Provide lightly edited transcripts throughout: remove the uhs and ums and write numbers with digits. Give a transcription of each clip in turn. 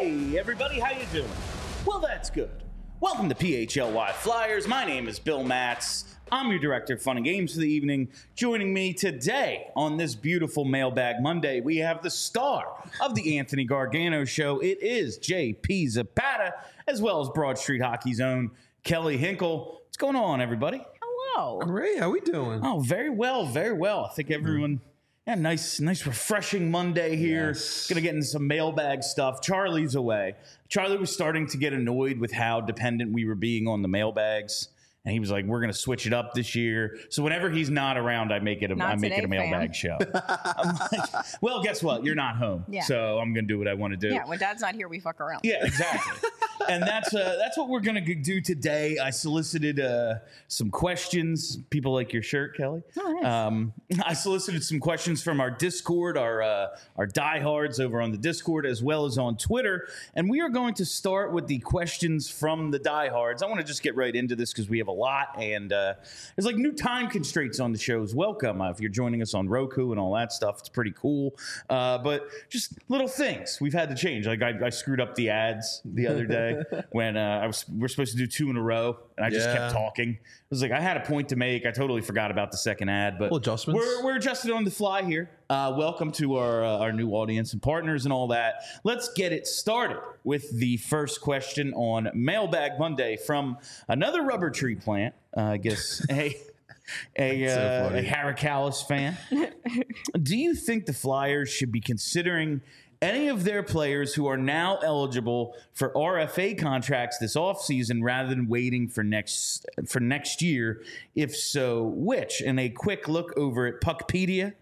Hey, everybody, how you doing? Well, that's good. Welcome to PHLY Flyers. My name is Bill Matz. I'm your director of fun and games for the evening. Joining me today on this beautiful Mailbag Monday, we have the star of the Anthony Gargano Show. It is JP Zapata, as well as Broad Street Hockey's own Kelly Hinkle. What's going on, everybody? Hello. Great. How we doing? Oh, very well, very well. I think everyone... Yeah, nice, refreshing Monday here. Yes. Gonna get into some mailbag stuff. Charlie's away. Charlie was starting to get annoyed with how dependent we were being on the mailbags, and he was like, "We're gonna switch it up this year." So whenever he's not around, I make it a mailbag show. I'm like, well, guess what? You're not home, so I'm gonna do what I want to do. Yeah, when Dad's not here, we fuck around. Yeah, exactly. And that's what we're going to do today. I solicited some questions. People like your shirt, Kelly. Oh, nice. I solicited some questions from our Discord, our diehards over on the Discord, as well as on Twitter. And we are going to start with the questions from the diehards. I want to just get right into this because we have a lot. And there's like new time constraints on the shows. Welcome. If you're joining us on Roku and all that stuff, it's pretty cool. But just little things we've had to change. Like I screwed up the ads the other day. When we're supposed to do 2 in a row, and I just kept talking. It was like I had a point to make. I totally forgot about the second ad, but adjustments. We're adjusted on the fly here. Welcome to our new audience and partners and all that. Let's get it started with the first question on Mailbag Monday from another rubber tree plant. I guess a Haracalis fan. Do you think the Flyers should be considering any of their players who are now eligible for RFA contracts this offseason rather than waiting for next year? If so, which? And a quick look over at Puckpedia,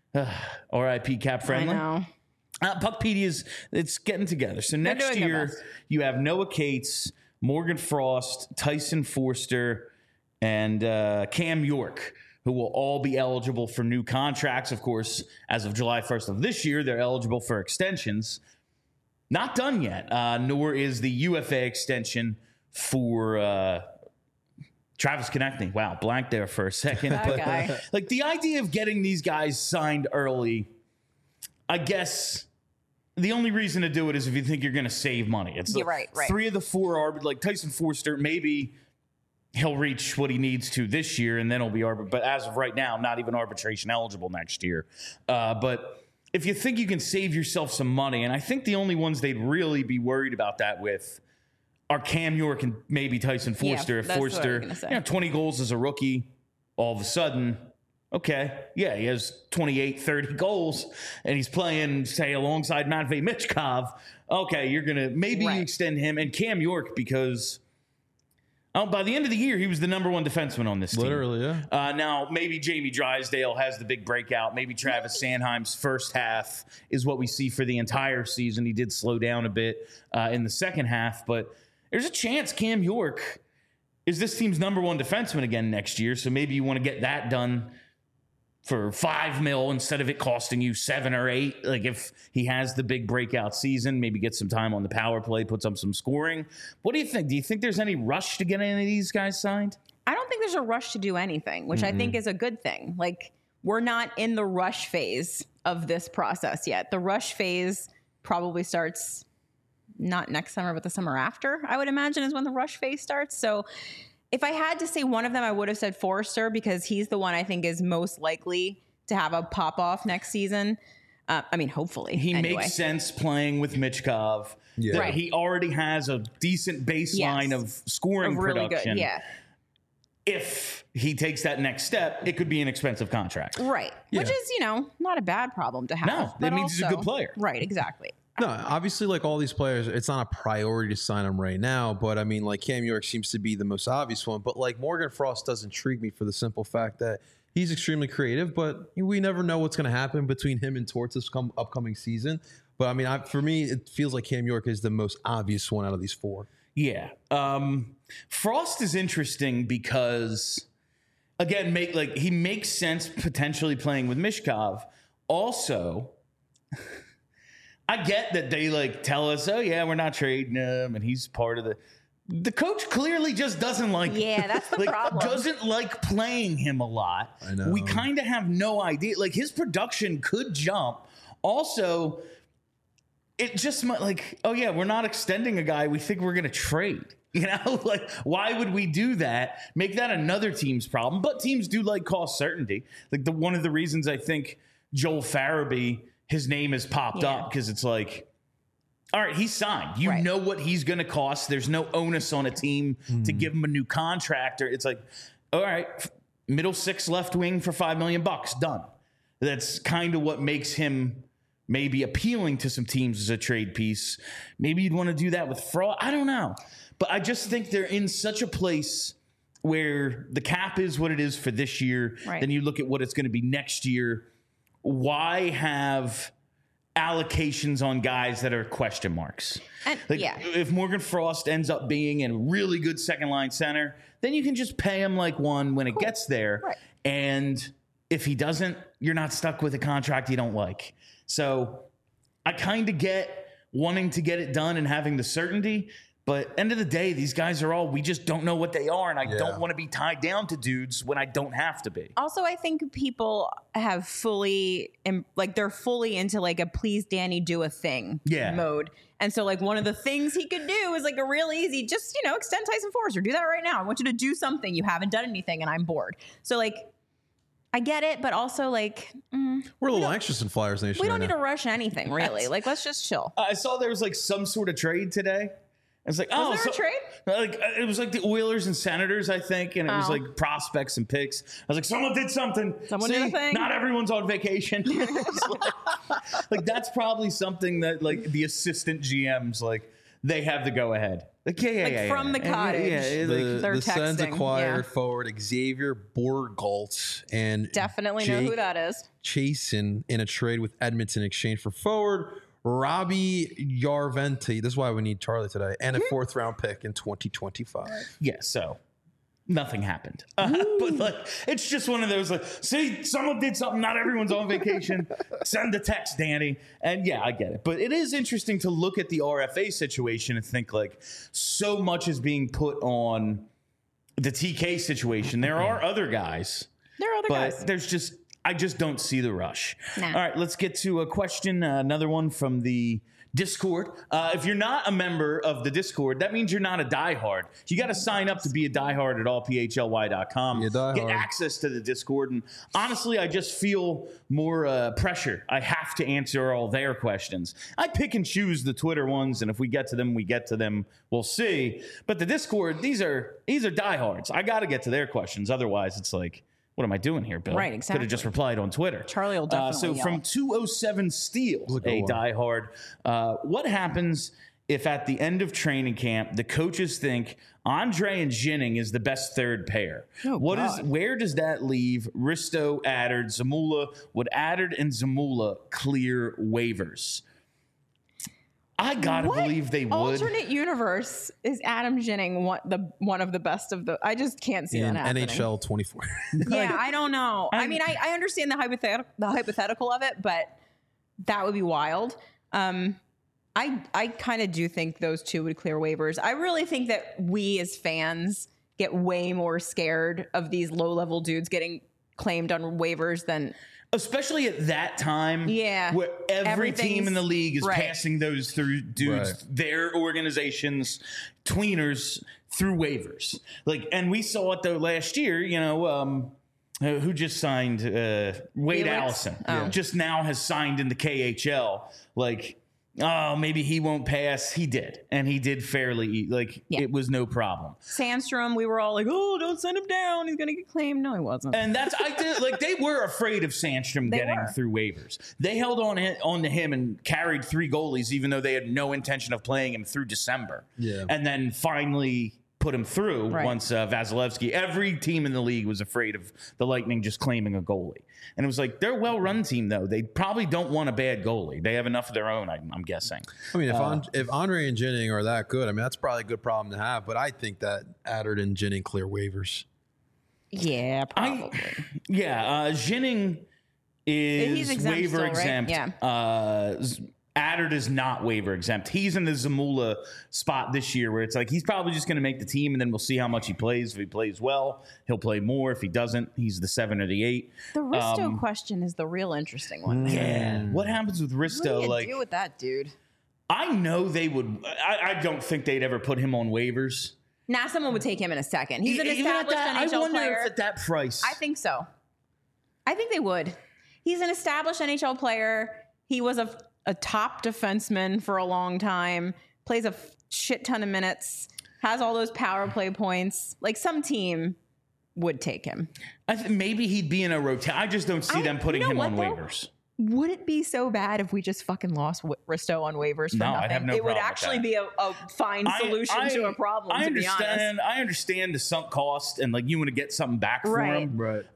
RIP Cap Friendly. I know. Puckpedia it's getting together. So next year you have Noah Cates, Morgan Frost, Tyson Forster, and Cam York, who will all be eligible for new contracts. Of course, as of July 1st of this year, they're eligible for extensions. Not done yet, nor is the UFA extension for Travis Konechny. Wow, blank there for a second. Guy. Like the idea of getting these guys signed early, I guess the only reason to do it is if you think you're going to save money. It's right. 3 of the 4 are like Tyson Forster, maybe he'll reach what he needs to this year, and then he'll be but as of right now, not even arbitration eligible next year. But if you think you can save yourself some money, and I think the only ones they'd really be worried about that with are Cam York and maybe Tyson Forster. If Forster, 20 goals as a rookie, all of a sudden, okay, yeah, he has 28, 30 goals, and he's playing, say, alongside Matvei Michkov. Okay, you're going to maybe you extend him, and Cam York because by the end of the year, he was the number 1 defenseman on this team. Literally, yeah. Now, maybe Jamie Drysdale has the big breakout. Maybe Travis Sanheim's first half is what we see for the entire season. He did slow down a bit in the second half, but there's a chance Cam York is this team's number 1 defenseman again next year, so maybe you want to get that done for $5 million instead of it costing you 7 or 8. Like if he has the big breakout season, maybe get some time on the power play, puts up some scoring. What do you think? Do you think there's any rush to get any of these guys signed? I don't think there's a rush to do anything, which I think is a good thing. Like we're not in the rush phase of this process yet. The rush phase probably starts not next summer, but the summer after, I would imagine, is when the rush phase starts. So if I had to say one of them, I would have said Forster because he's the one I think is most likely to have a pop-off next season. I mean, hopefully. He makes sense playing with Michkov. Yeah. Right. He already has a decent baseline of scoring really production. good, yeah. If he takes that next step, it could be an expensive contract. Right. Yeah. Which is, not a bad problem to have. No, that but means he's a good player. Right, exactly. No, obviously, like all these players, it's not a priority to sign them right now. But I mean, like Cam York seems to be the most obvious one. But like Morgan Frost does intrigue me for the simple fact that he's extremely creative. But we never know what's going to happen between him and Torts this upcoming season. But I mean, for me, it feels like Cam York is the most obvious one out of these 4. Yeah. Frost is interesting because, again, he makes sense potentially playing with Michkov. Also, I get that they tell us, oh yeah, we're not trading him, and he's part of the coach clearly just doesn't like him. Yeah, that's the problem. Doesn't like playing him a lot. I know. We kind of have no idea. His production could jump. Also, it just might like, oh yeah, we're not extending a guy we think we're going to trade. You know, like why would we do that? Make that another team's problem. But teams do like cost certainty. Like one of the reasons I think Joel Farabee, his name has popped up because it's like, all right, he's signed. You know what he's going to cost. There's no onus on a team to give him a new contract. Or it's like, all right, middle six left wing for $5 million, done. That's kind of what makes him maybe appealing to some teams as a trade piece. Maybe you'd want to do that with Frost. I don't know. But I just think they're in such a place where the cap is what it is for this year. Right. Then you look at what it's going to be next year. Why have allocations on guys that are question marks? And, If Morgan Frost ends up being a really good second line center, then you can just pay him like one when it gets there. Right. And if he doesn't, you're not stuck with a contract you don't like. So I kind of get wanting to get it done and having the certainty. But end of the day, these guys are all, we just don't know what they are. And I don't want to be tied down to dudes when I don't have to be. Also, I think people have they're fully into like a please Danny do a thing mode. And so like one of the things he could do is like a real easy, just, extend Tyson Forrester. Do that right now. I want you to do something. You haven't done anything and I'm bored. So like, I get it, but also like we're a little anxious in Flyers Nation. We don't need to rush anything, really. Like, let's just chill. I saw there was like some sort of trade today. I was like, was there a trade? Like it was like the Oilers and Senators, I think, and it was like prospects and picks. I was like, someone did something. Someone did a thing. Not everyone's on vacation. like that's probably something that like the assistant GMs like they have the go ahead. Like from the cottage. The Sens acquired forward Xavier Bourgault and definitely know who that is. Chasen in a trade with Edmonton in exchange for forward Robbie Yarventi. This is why we need Charlie today. And a 4th round pick in 2025. Yeah, so nothing happened. But like, it's just one of those like, see, someone did something. Not everyone's on vacation. Send a text, Danny. And yeah, I get it. But it is interesting to look at the RFA situation and think like so much is being put on the TK situation. There are other guys. But there's just, I just don't see the rush. Nah. All right, let's get to a question. Another one from the Discord. If you're not a member of the Discord, that means you're not a diehard. You got to sign up to be a diehard at allphly.com. Get access to the Discord. And honestly, I just feel more pressure. I have to answer all their questions. I pick and choose the Twitter ones, and if we get to them, we get to them. We'll see. But the Discord, these are diehards. I got to get to their questions. Otherwise, it's like, what am I doing here, Bill? Right, exactly. Could have just replied on Twitter. Charlie will definitely So yell. from 207 Steel, a diehard, what happens if at the end of training camp, the coaches think Andre and Ginning is the best third pair? Where does that leave Risto, Addard, Zamula? Would Addard and Zamula clear waivers? I gotta believe they would. Alternate universe is Adam Ginning one of the best of the. I just can't see that happening. NHL 24. Yeah, I don't know. I mean, I understand the hypothetical of it, but that would be wild. I kind of do think those two would clear waivers. I really think that we as fans get way more scared of these low-level dudes getting claimed on waivers than. Especially at that time, where every team in the league is passing those through dudes, their organizations, tweeners through waivers. Like, and we saw it though last year. Who just signed? Wade Allison just now has signed in the KHL. Like, oh, maybe he won't pass. He did, and he did fairly. It was no problem. Sandstrom, we were all like, "Oh, don't send him down. He's gonna get claimed." No, he wasn't. And they were afraid of Sandstrom getting through waivers. They held on to him and carried 3 goalies, even though they had no intention of playing him through December. Yeah, and then finally put him through once Vasilevsky. Every team in the league was afraid of the Lightning just claiming a goalie. And it was like, they're a well-run team, though. They probably don't want a bad goalie. They have enough of their own, I'm guessing. I mean, if Andre and Ginning are that good, I mean, that's probably a good problem to have. But I think that Addard and Ginning clear waivers. Yeah, probably. Ginning is exempt waiver still, exempt. Right? Yeah. Addard is not waiver exempt. He's in the Zamula spot this year where it's like he's probably just going to make the team, and then we'll see how much he plays. If he plays well, he'll play more. If he doesn't, he's the 7 or the 8. The Risto question is the real interesting one. Yeah. What happens with Risto? What do you do with that dude? I know they would. I don't think they'd ever put him on waivers. Nah, someone would take him in a second. He's an Even at established that, NHL I wonder player. if at that price. I think so. I think they would. He's an established NHL player. He was a top defenseman for a long time. Plays a shit ton of minutes. Has all those power play points. Like some team would take him. I think maybe he'd be in a rotation. I just don't see them putting him on waivers. Would it be so bad if we just fucking lost Risto on waivers for No, nothing? I'd have no it would problem with actually that. be a fine solution to a problem, I to be honest. understand. I understand the sunk cost and like you want to get something back for him. Right.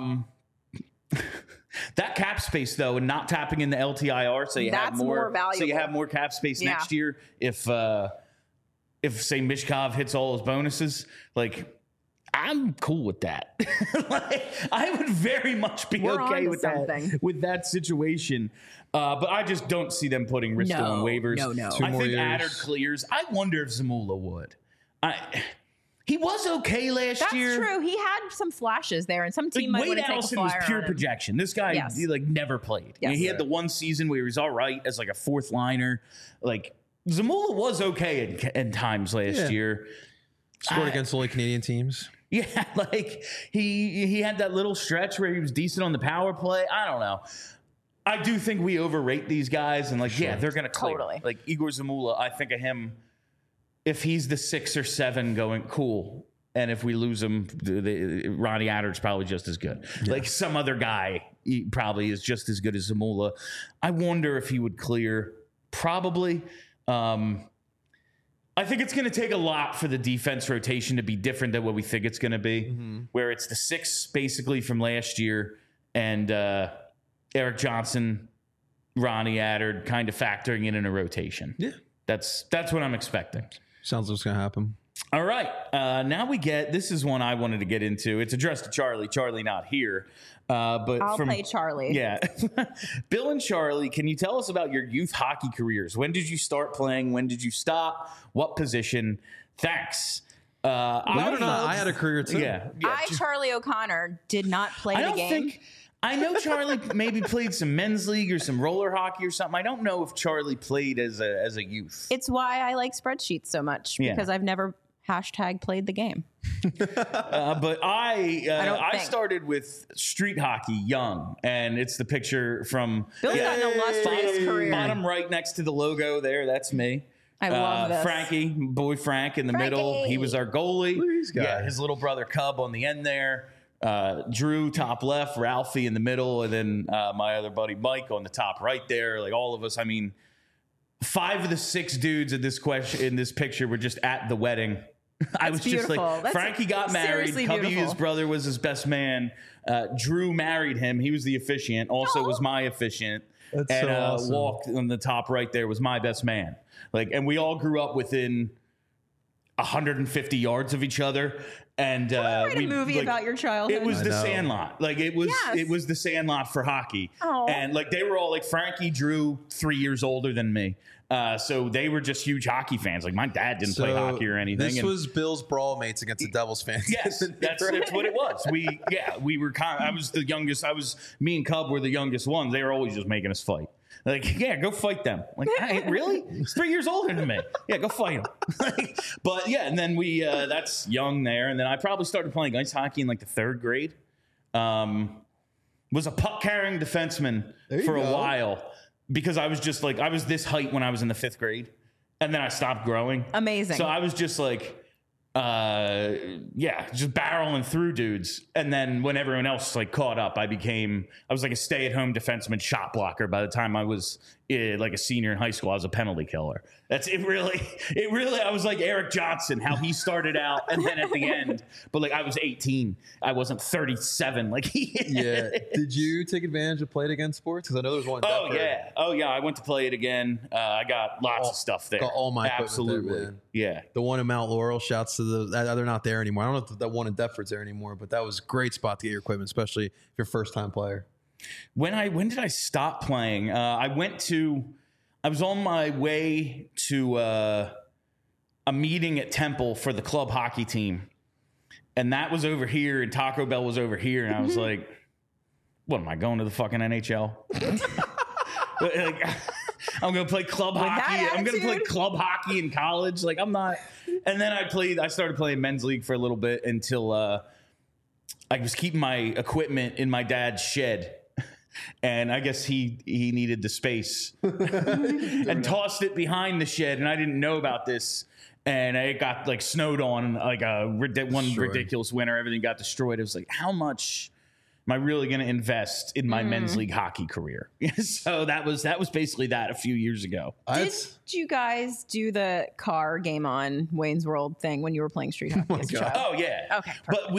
That cap space though, and not tapping in the LTIR, so you have That's more more valuable. So you have more cap space Yeah. next year. If say Mishkov hits all his bonuses, like I'm cool with that. Like, I would very much be We're okay onto with something. that situation. But I just don't see them putting Risto on waivers. No. Two I more think years. Adder clears. I wonder if Zamula would. He was okay last That's year. true. He had some flashes there, and some team might Wade want to take a Allison was flyer pure on him. projection. This guy, Yes. he like never played. I mean, Yes. he had the one season where he was all right as like a fourth liner. Like Zamula was okay in times last Yeah. year. Scored against only Canadian teams. Yeah, like he had that little stretch where he was decent on the power play. I don't know. I do think we overrate these guys, and like, yeah, they're gonna clear. Totally. Like Igor Zamula, I think of him if he's the 6 or 7 going cool, and if we lose him, Ronnie Adder's probably just as good. Like some other guy, he probably is just as good as Zamula. I wonder if he would clear. Probably. I think it's going to take a lot for the defense rotation to be different than what we think it's going to be, where it's the 6 basically from last year and Eric Johnson, Ronnie Adder kind of factoring in a rotation. Yeah. That's what I'm expecting. Sounds like it's going to happen. All right. Now we get, this is one I wanted to get into. It's addressed to Charlie. Charlie not here. But I'll play Charlie. Yeah. Bill and Charlie, can you tell us about your youth hockey careers? When did you start playing? When did you stop? What position? Thanks. Believe it or not, I had a career too. Yeah. Charlie O'Connor, did not play I the don't game. think. I know Charlie maybe played some men's league or some roller hockey or something. I don't know if Charlie played as a youth. It's why I like spreadsheets so much, Yeah. because I've never #played the game. But I think. started with street hockey young, and it's the picture from Bill's got an illustrious career. bottom right next to the logo there. That's me. I love this. Frankie, boy Frank in the middle. Frankie. He was our goalie. Look at these guys. Yeah, his little brother Cub on the end there. Drew top left, Ralphie in the middle, and then my other buddy Mike on the top right there. Like all of us. I mean, 5 of the 6 dudes in this picture were just at the wedding. I was just beautiful. like, That's Frankie got married. seriously Cubby, beautiful. his brother, was his best man. Drew married him. He was the officiant. Also was my officiant. That's and so awesome. Walk on the top right there was my best man. Like, and we all grew up within 150 yards of each other. And Write a movie about your childhood. It was I the know. Sandlot. Like it was. Yes. It was the Sandlot for hockey. Aw. And like they were all like Frankie, Drew, 3 years older than me. So they were just huge hockey fans. Like my dad didn't play hockey or anything. This and- was Bill's brawl mates against the Devils fans. Yes, that's what it was. We were I was the youngest. Me and Cub were the youngest ones. They were always just making us fight. Like, yeah, go fight them. Like, hey, really? He's 3 years older than me. Yeah, go fight him. But yeah, and then we that's young there. And then I probably started playing ice hockey in like the 3rd grade. Was a puck carrying defenseman There you for a go. while because I was just like I was this height when I was in the 5th grade, and then I stopped growing. Amazing. So I was just like, just barreling through dudes. And then when everyone else like caught up, I was like a stay-at-home defenseman shot blocker. By the time I was like a senior in high school, I was a penalty killer. That's it. Really, I was like Eric Johnson, how he started out, and then at the end, but like I was 18, I wasn't 37. Like he. Yeah. Did you take advantage of Play It Again sports? Because I know there's one. in Oh Deptford. yeah. Oh yeah. I went to Play It Again. I got lots of stuff there. got all my equipment there, absolutely. man. Yeah. The one in Mount Laurel, shouts to they're not there anymore. I don't know if that one in Deptford's there anymore, but that was a great spot to get your equipment, especially if you're a first time player. When did I stop playing? I was on my way to a meeting at Temple for the club hockey team. And that was over here and Taco Bell was over here. And I was like, what am I going to the fucking NHL? Like, I'm going to play club hockey. I'm going to play club hockey in college. Like, I'm not. And then I started playing men's league for a little bit until I was keeping my equipment in my dad's shed. And I guess he needed the space and tossed it behind the shed. And I didn't know about this. And it got like snowed on like ridiculous winter. Everything got destroyed. It was like, how much am I really going to invest in my men's league hockey career? So that was basically that a few years ago. Did you guys do the car game on Wayne's World thing when you were playing street hockey as a child? Oh yeah. Okay. Perfect. But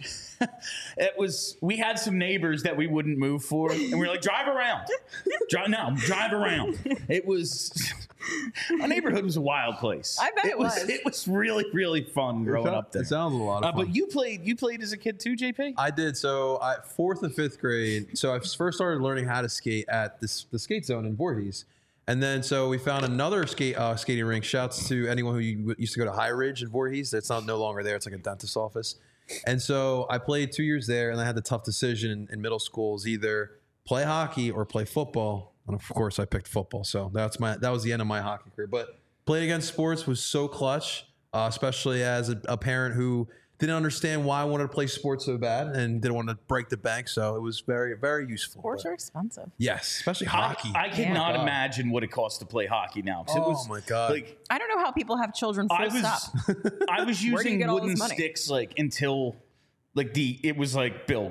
we had some neighbors that we wouldn't move for, and we were like, drive around. Drive around. It was our neighborhood was a wild place. I bet it was. It was really, really fun growing up there. It sounds a lot of fun. But you played as a kid too, JP? I did. So 4th and 5th grade. So I first started learning how to skate at the skate zone in Voorhees. And then so we found another skating rink. Shouts to anyone who used to go to High Ridge in Voorhees. That's no longer there. It's like a dentist's office. And so I played 2 years there, and I had the tough decision in middle school is either play hockey or play football. And of course, I picked football. So that was the end of my hockey career. But playing against sports was so clutch, especially as a parent who didn't understand why I wanted to play sports so bad and didn't want to break the bank. So it was very, very useful. Sports are expensive. Yes, especially hockey. I cannot imagine what it costs to play hockey now. Oh my God. Like, I don't know how people have children full stop. I was Where do you using get all this wooden money? sticks like until like it was like, Bill,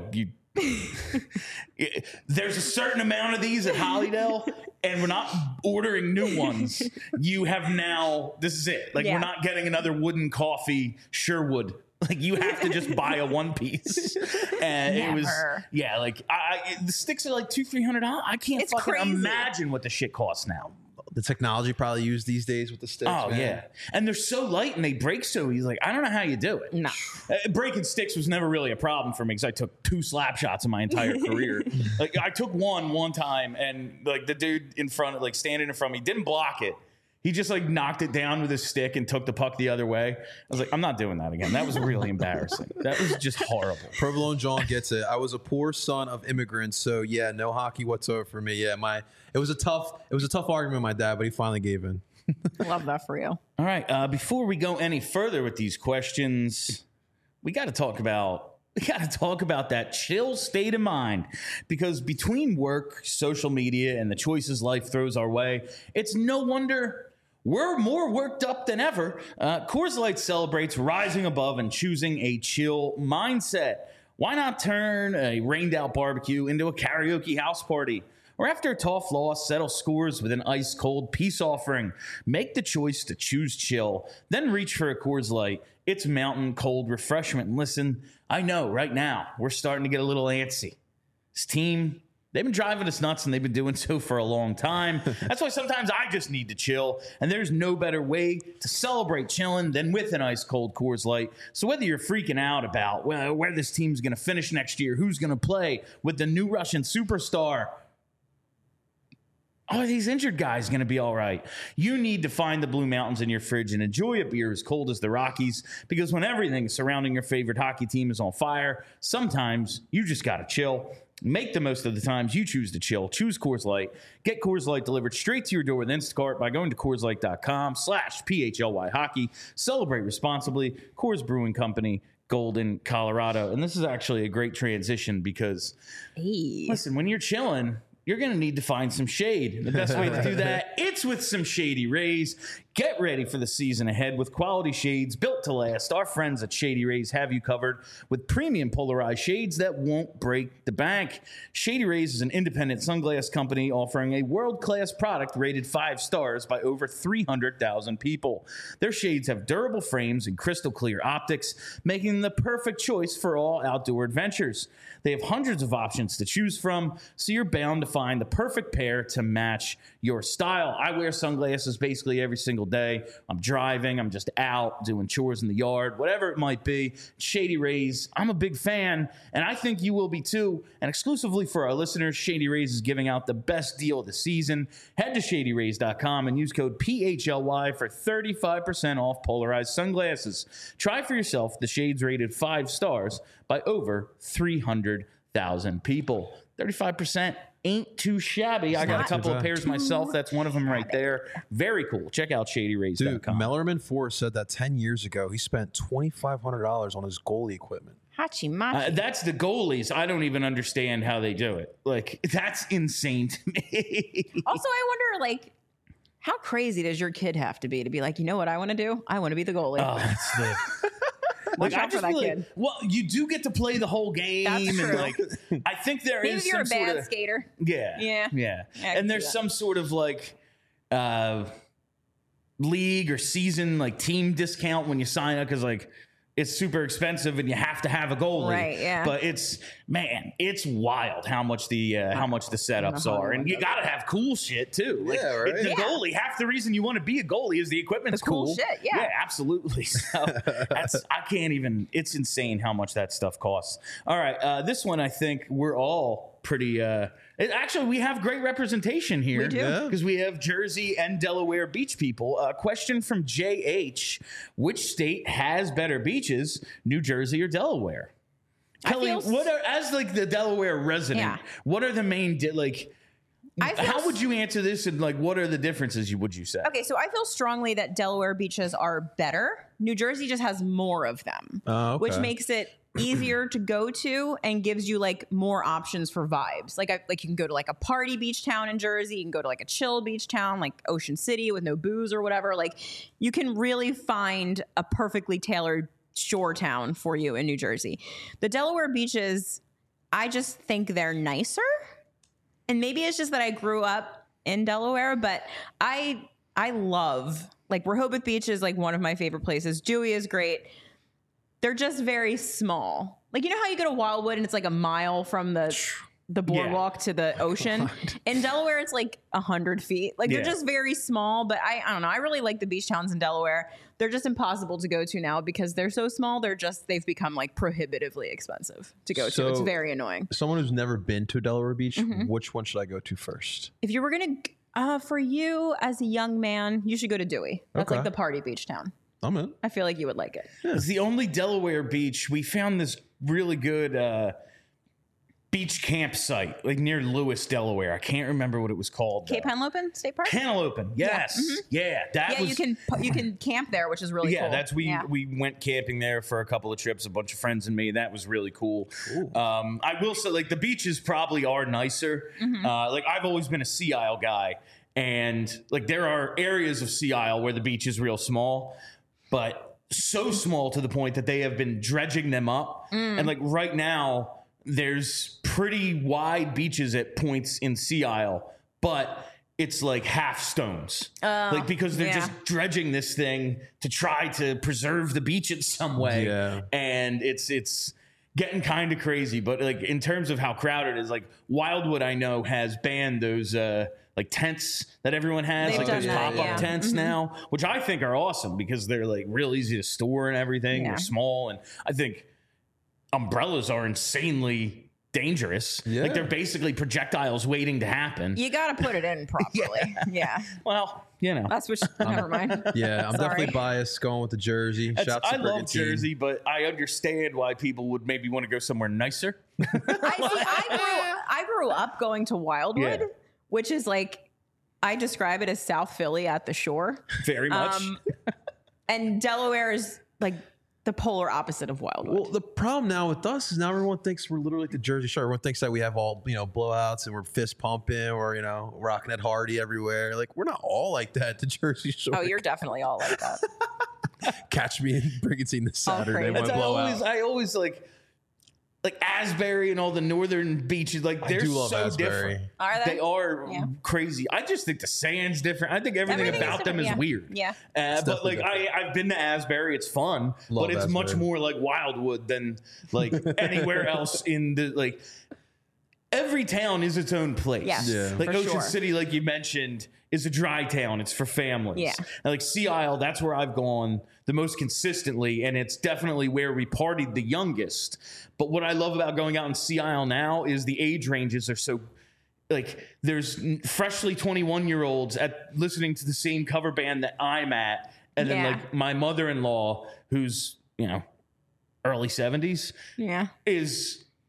there's a certain amount of these at Hollydale, and we're not ordering new ones. You have now, this is it. Like, we're not getting another wooden coffee Sherwood. Like, you have to just buy a one piece. And Never. it was, like the sticks are like $200-$300. I can't It's fucking crazy. imagine what the shit costs now. The technology probably used these days with the sticks. Oh, man. yeah. And they're so light and they break so easy. Like, I don't know how you do it. No. Breaking sticks was never really a problem for me because I took 2 slap shots in my entire career. Like, I took one time, and like the dude in front, like standing in front of me, didn't block it. He just like knocked it down with his stick and took the puck the other way. I was like, I'm not doing that again. That was really embarrassing. That was just horrible. Provolone John gets it. I was a poor son of immigrants, so yeah, no hockey whatsoever for me. Yeah, it was a tough argument with my dad, but he finally gave in. Love that for you. All right. Before we go any further with these questions, we got to talk about that chill state of mind, because between work, social media, and the choices life throws our way, it's no wonder we're more worked up than ever. Coors Light celebrates rising above and choosing a chill mindset. Why not turn a rained out barbecue into a karaoke house party? Or after a tough loss, settle scores with an ice-cold peace offering. Make the choice to choose chill, then reach for a Coors Light. It's mountain cold refreshment. And listen, I know right now we're starting to get a little antsy. This team, they've been driving us nuts, and they've been doing so for a long time. That's why sometimes I just need to chill, and there's no better way to celebrate chilling than with an ice-cold Coors Light. So whether you're freaking out about where this team's going to finish next year, who's going to play with the new Russian superstar, are these injured guys going to be all right? You need to find the Blue Mountains in your fridge and enjoy a beer as cold as the Rockies, because when everything surrounding your favorite hockey team is on fire, sometimes you just got to chill. Make the most of the times you choose to chill. Choose Coors Light. Get Coors Light delivered straight to your door with Instacart by going to CoorsLight.com/PHLY hockey. Celebrate responsibly. Coors Brewing Company, Golden, Colorado. And this is actually a great transition because, listen, when you're chilling, you're going to need to find some shade. The best way to do that, it's with some Shady Rays. Get ready for the season ahead with quality shades built to last. Our friends at Shady Rays have you covered with premium polarized shades that won't break the bank. Shady Rays is an independent sunglass company offering a world-class product rated 5 stars by over 300,000 people. Their shades have durable frames and crystal clear optics, making them the perfect choice for all outdoor adventures. They have hundreds of options to choose from, so you're bound to find the perfect pair to match your style. I wear sunglasses basically every single day. I'm driving, I'm just out doing chores in the yard, whatever it might be. Shady Rays, I'm a big fan, and I think you will be too. And exclusively for our listeners, Shady Rays is giving out the best deal of the season. Head to ShadyRays.com and use code PHLY for 35% off polarized sunglasses. Try for yourself the shades rated 5 stars by over 300,000 people. 35%. ain't too shabby. I got a not couple of too pairs myself. That's one of them right there. Very cool. Check out Dude, shadyrays.com. Mellerman Forrest said that 10 years ago he spent $2,500 on his goalie equipment. Hachimachi. That's the goalies. I don't even understand how they do it. Like, that's insane to me. Also, I wonder, like, how crazy does your kid have to be like, you know what I want to do? I want to be the goalie. Oh, that's the. Watch Like, I out for just that feel like, kid. well, you do get to play the whole game, That's and true. like, I think there Maybe is if you're some a bad sort of skater. yeah, Yeah. yeah, I can and see there's that. some sort of like league or season like team discount when you sign up because like it's super expensive and you have to have a goalie. Right, yeah. But it's wild how much the setups are, and you got to have cool shit too. Like, Yeah, right. The Yeah. goalie, half the reason you want to be a goalie is the equipment's The cool shit, yeah. Yeah, absolutely. So I can't even. It's insane how much that stuff costs. All right, this one I think we're all pretty. Actually, we have great representation here. We do. Yeah. Because we have Jersey and Delaware beach people. Question from JH: which state has better beaches, New Jersey or Delaware? Kelly, feel what are, as like the Delaware resident, Yeah. what are the main I feel how would you answer this, and like what are the differences? Would you say? Okay, so I feel strongly that Delaware beaches are better. New Jersey just has more of them, Oh, okay. which makes it easier to go to and gives you like more options for vibes. Like you can go to like a party beach town in Jersey, you can go to like a chill beach town like Ocean City with no booze or whatever. Like you can really find a perfectly tailored shore town for you in New Jersey. The Delaware beaches, I just think they're nicer. And maybe it's just that I grew up in Delaware, but I love, like, Rehoboth Beach is like one of my favorite places. Dewey is great. They're just very small. Like, you know how you go to Wildwood and it's like a mile from the boardwalk to the ocean? In Delaware, it's like 100 feet. Like, they're Yeah. just very small, but I don't know. I really like the beach towns in Delaware. They're just impossible to go to now because they're so small. They've become like prohibitively expensive to go to. It's So- very annoying. Someone who's never been to Delaware Beach, Mm-hmm. which one should I go to first? If you were gonna, for you as a young man, you should go to Dewey. That's Okay. like the party beach town. I'm in. I feel like you would like it. It's the only Delaware beach. We found this really good beach campsite, like near Lewis, Delaware. I can't remember what it was called. Cape Henlopen State Park. Cantaloupe. Yes. Yeah. That Yeah, was. you can camp there, which is really Yeah, cool. we went camping there for a couple of trips, a bunch of friends and me. That was really cool. I will say, like, the beaches probably are nicer. Like, I've always been a Sea Isle guy, and like there are areas of Sea Isle where the beach is real small, but so small to the point that they have been dredging them up. And like right now, there's pretty wide beaches at points in Sea Isle, but it's like half stones. Like because they're yeah. just dredging this thing to try to preserve the beach in some way. Yeah. And it's getting kind of crazy. But like in terms of how crowded it is, like Wildwood I know has banned those like tents that everyone has, They've like done those that, pop-up yeah. tents now, which I think are awesome because they're like real easy to store and everything. Yeah. They're small, and I think umbrellas are insanely dangerous. Yeah. Like they're basically projectiles waiting to happen. You got to put it in properly. yeah. Well, you know. That's what. Never mind. Yeah, I'm Sorry. definitely biased going with the Jersey. Shouts to I love Brigantine. Jersey, but I understand why people would maybe want to go somewhere nicer. I grew up going to Wildwood, Yeah. which is like I describe it as South Philly at the shore. Very much. And Delaware is like the polar opposite of Wildwood. Well, the problem now with us is now everyone thinks we're literally like the Jersey Shore. Everyone thinks that we have all, blowouts and we're fist pumping or, rocking at Hardy everywhere. Like, we're not all like that at the Jersey Shore. Oh, you're definitely all like that. Catch me in Brigantine this All Saturday when crazy. I blow out. I always like Asbury and all the northern beaches. Like they're do love so Asbury. different. Are they? They are Yeah. crazy. I just think the sand's different. I think everything about them is different, weird. Yeah. But like definitely I've been to Asbury. It's fun, Love but it's much Asbury. more like Wildwood than like anywhere else in the like. Every town is its own place. Yes, Yeah. Like for Ocean sure. City, like you mentioned, is a dry town. It's for families. Yeah. And like Sea Isle, that's where I've gone the most consistently, and it's definitely where we partied the youngest. But what I love about going out in Sea Isle now is the age ranges are so like there's freshly 21-year-olds at listening to the same cover band that I'm at, and then Yeah. like my mother-in-law, who's early 70s, Yeah. is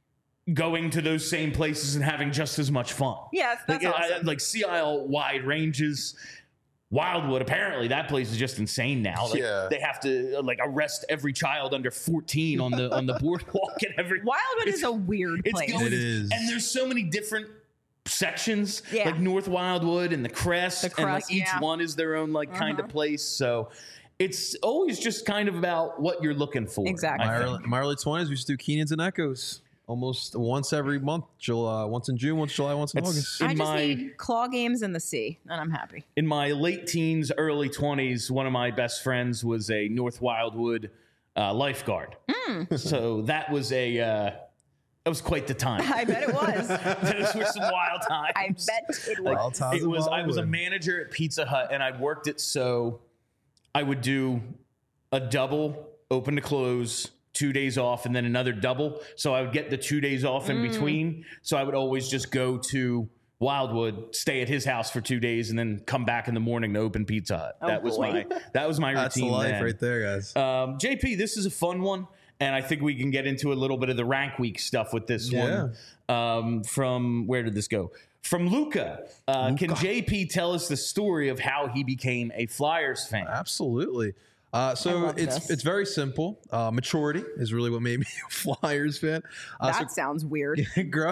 going to those same places and having just as much fun. Yeah, that's awesome. Like Sea Isle wide ranges. Wildwood, apparently that place is just insane now. Like, they have to like arrest every child under 14 on the boardwalk and every. Wildwood is a weird place. It is. And there's so many different sections, Yeah. like North Wildwood and the Crest, and like each yeah. one is their own like kind of place. So it's always just kind of about what you're looking for. Exactly. In my early 20s, we used to do Keenans and Echoes almost once every month. Once in June, once July, once in August. I just need claw games in the sea, and I'm happy. In my late teens, early 20s, one of my best friends was a North Wildwood lifeguard. So that was quite the time. I bet it was. Those were some wild times. I bet it was. Wild times in I was a Wildwood. manager at Pizza Hut, and I worked it so I would do a double, open to close, 2 days off, and then another double. So I would get the 2 days off in between. So I would always just go to Wildwood, stay at his house for 2 days, and then come back in the morning to open Pizza Hut. That was my routine. That's the life then. right there, guys. JP, this is a fun one, and I think we can get into a little bit of the rank week stuff with this one. From where did this go? From Luca. Can JP tell us the story of how he became a Flyers fan? Absolutely. So it's very simple. Maturity is really what made me a Flyers fan. That sounds weird.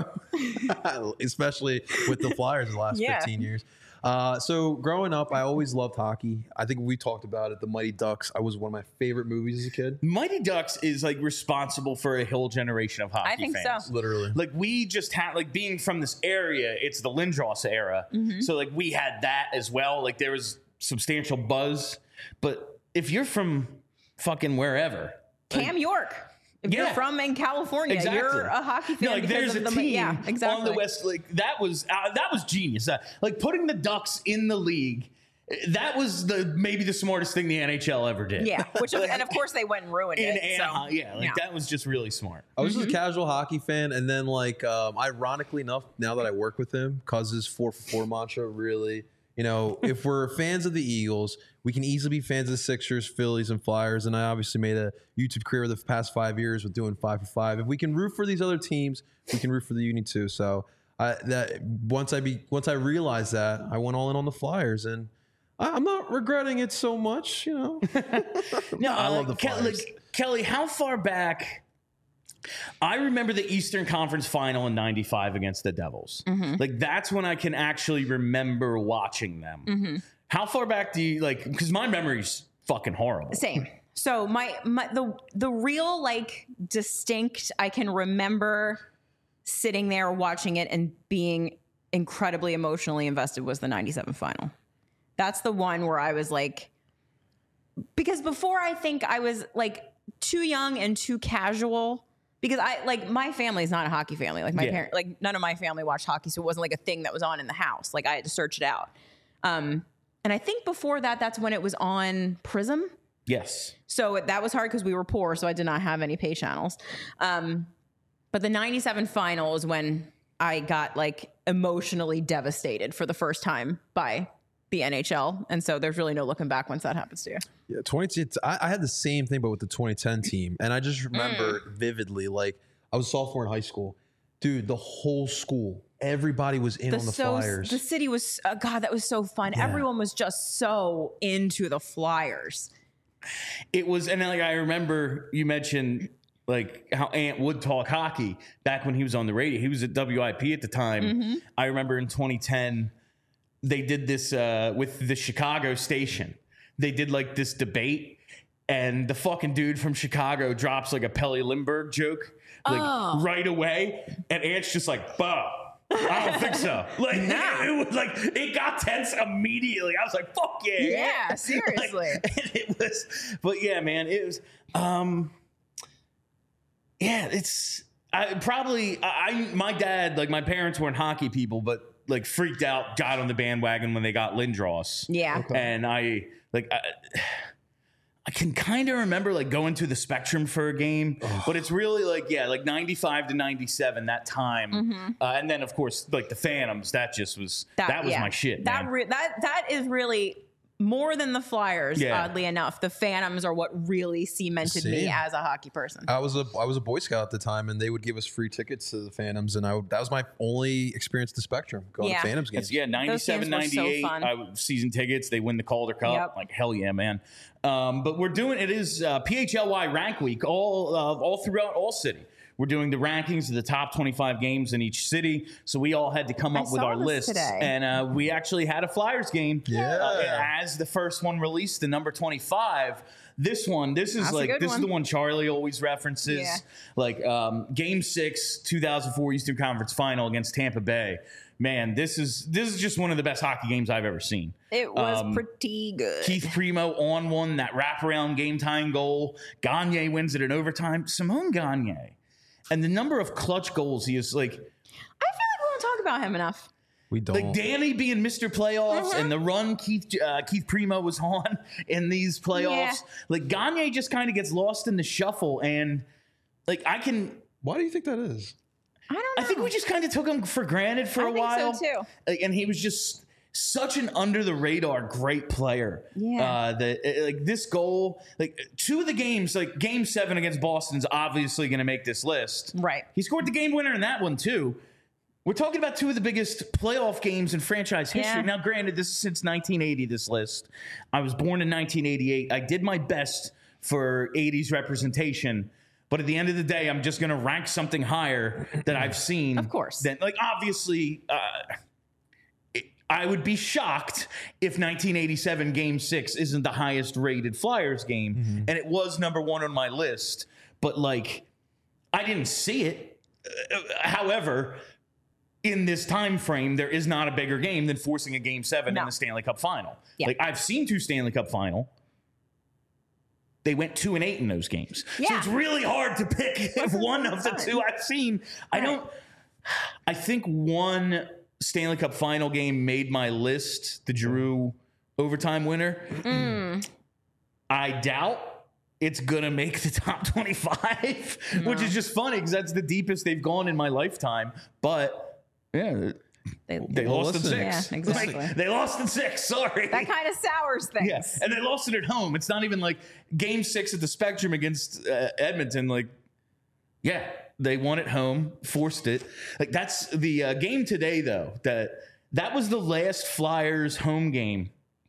Especially with the Flyers the last 15 years. So growing up, I always loved hockey. I think we talked about it. The Mighty Ducks. I was one of my favorite movies as a kid. Mighty Ducks is like responsible for a whole generation of hockey I think fans. so. Literally. Like we just had, like being from this area, it's the Lindros era. So like we had that as well. Like there was substantial buzz. But if you're from fucking wherever, Cam York. If you're from in California, you're a hockey fan. No, like there's a team on the West. Like that was genius. Like putting the Ducks in the league. That was maybe the smartest thing the NHL ever did. Yeah, and of course they went and ruined it. Anaheim, that was just really smart. I was just a casual hockey fan, and then like ironically enough, now that I work with him, cause his 4-for-4 mantra really, if we're fans of the Eagles, we can easily be fans of the Sixers, Phillies, and Flyers. And I obviously made a YouTube career the past 5 years with doing 5-for-5. If we can root for these other teams, we can root for the Uni too. So once I realized that, I went all in on the Flyers, and I'm not regretting it so much. No, I love the Flyers. Kelly, how far back? I remember the Eastern Conference Final in '95 against the Devils. Like that's when I can actually remember watching them. How far back do you like? Because my memory's fucking horrible. Same. So the real like distinct I can remember sitting there watching it and being incredibly emotionally invested was the '97 final. That's the one where I was like, because before I think I was like too young and too casual. Because my family's not a hockey family. Like my parents, like none of my family watched hockey, so it wasn't like a thing that was on in the house. Like I had to search it out. And I think before that, that's when it was on Prism. Yes. So that was hard because we were poor, so I did not have any pay channels. But the '97 final is when I got like emotionally devastated for the first time by the NHL, and so there's really no looking back once that happens to you. Yeah, I had the same thing, but with the 2010 team, and I just remember vividly. Like I was a sophomore in high school, dude. The whole school, everybody was in on the Flyers. The city was God. That was so fun. Yeah. Everyone was just so into the Flyers. It was, and like I remember you mentioned like how Ant would talk hockey back when he was on the radio. He was at WIP at the time. I remember in 2010. They did this with the Chicago station. They did like this debate, and the fucking dude from Chicago drops like a Pelle Lindbergh joke like right away, and Ant's just like, "Bah, I don't think so." Like, it was like it got tense immediately. I was like, "Fuck yeah, yeah, seriously." Like, it was, but yeah, man, it was. Yeah, it's my dad, like my parents weren't hockey people, but. Like freaked out, got on the bandwagon when they got Lindros. Yeah. Okay. And I can kind of remember like going to the Spectrum for a game, but it's really like, like 95 to 97, that time. And then of course, like the Phantoms, that was my shit. That is really more than the Flyers, Yeah. oddly enough. The Phantoms are what really cemented me See? as a hockey person. I was a Boy Scout at the time, and they would give us free tickets to the Phantoms, and that was my only experience at the Spectrum, going Yeah. to Phantoms games. Yeah, 97, games were so 98 fun. season tickets. They win the Calder Cup. Yep. Like, hell yeah, man. But we're doing, it is PHLY Rank Week all throughout all city. We're doing the rankings of the top 25 games in each city. So we all had to come up with saw our this lists. today. And we actually had a Flyers game. Yeah. As the first one released, the number 25. This is That's a like, good this one. is the one Charlie always references. Yeah. Like Game 6, 2004 Eastern Conference Final against Tampa Bay. Man, this is just one of the best hockey games I've ever seen. It was pretty good. Keith Primo on one, that wraparound game-tying goal. Gagne wins it in overtime. Simone Gagne. And the number of clutch goals he is, like I feel like we don't talk about him enough. We don't. like Danny being Mr. Playoffs and the run Keith Primo was on in these playoffs. Yeah. Like Gagne just kind of gets lost in the shuffle, and like Why do you think that is? I don't know. I think we just kind of took him for granted for I a think while. so, too. Like, and he was just such an under the radar great player. Yeah. Like this goal, like 2 of the games, like Game 7 against Boston's obviously going to make this list. Right. He scored the game winner in that one too. We're talking about 2 of the biggest playoff games in franchise history. Yeah. Now, granted, this is since 1980, this list. I was born in 1988. I did my best for 80s representation. But at the end of the day, I'm just going to rank something higher that I've seen. Of course. Then, like, obviously, I would be shocked if 1987 Game 6 isn't the highest rated Flyers game. And it was number 1 on my list. But, like, I didn't see it. However, in this time frame, there is not a bigger game than forcing a Game 7 in No. the Stanley Cup Final. Yeah. Like, I've seen 2 Stanley Cup Final. They went 2-8 in those games. So Yeah. it's really hard to pick one of the 2 I've seen. I think one Stanley Cup Final game made my list, the Giroux overtime winner. I doubt it's going to make the top 25, which is just funny because that's the deepest they've gone in my lifetime. But, yeah, they lost in listen. 6. Yeah, exactly. Like, they lost in 6, sorry. That kind of sours things. Yeah, and they lost it at home. It's not even like Game 6 at the Spectrum against Edmonton. Like, yeah, they won at home, forced it. Like, that's the game today, though. That was the last Flyers home game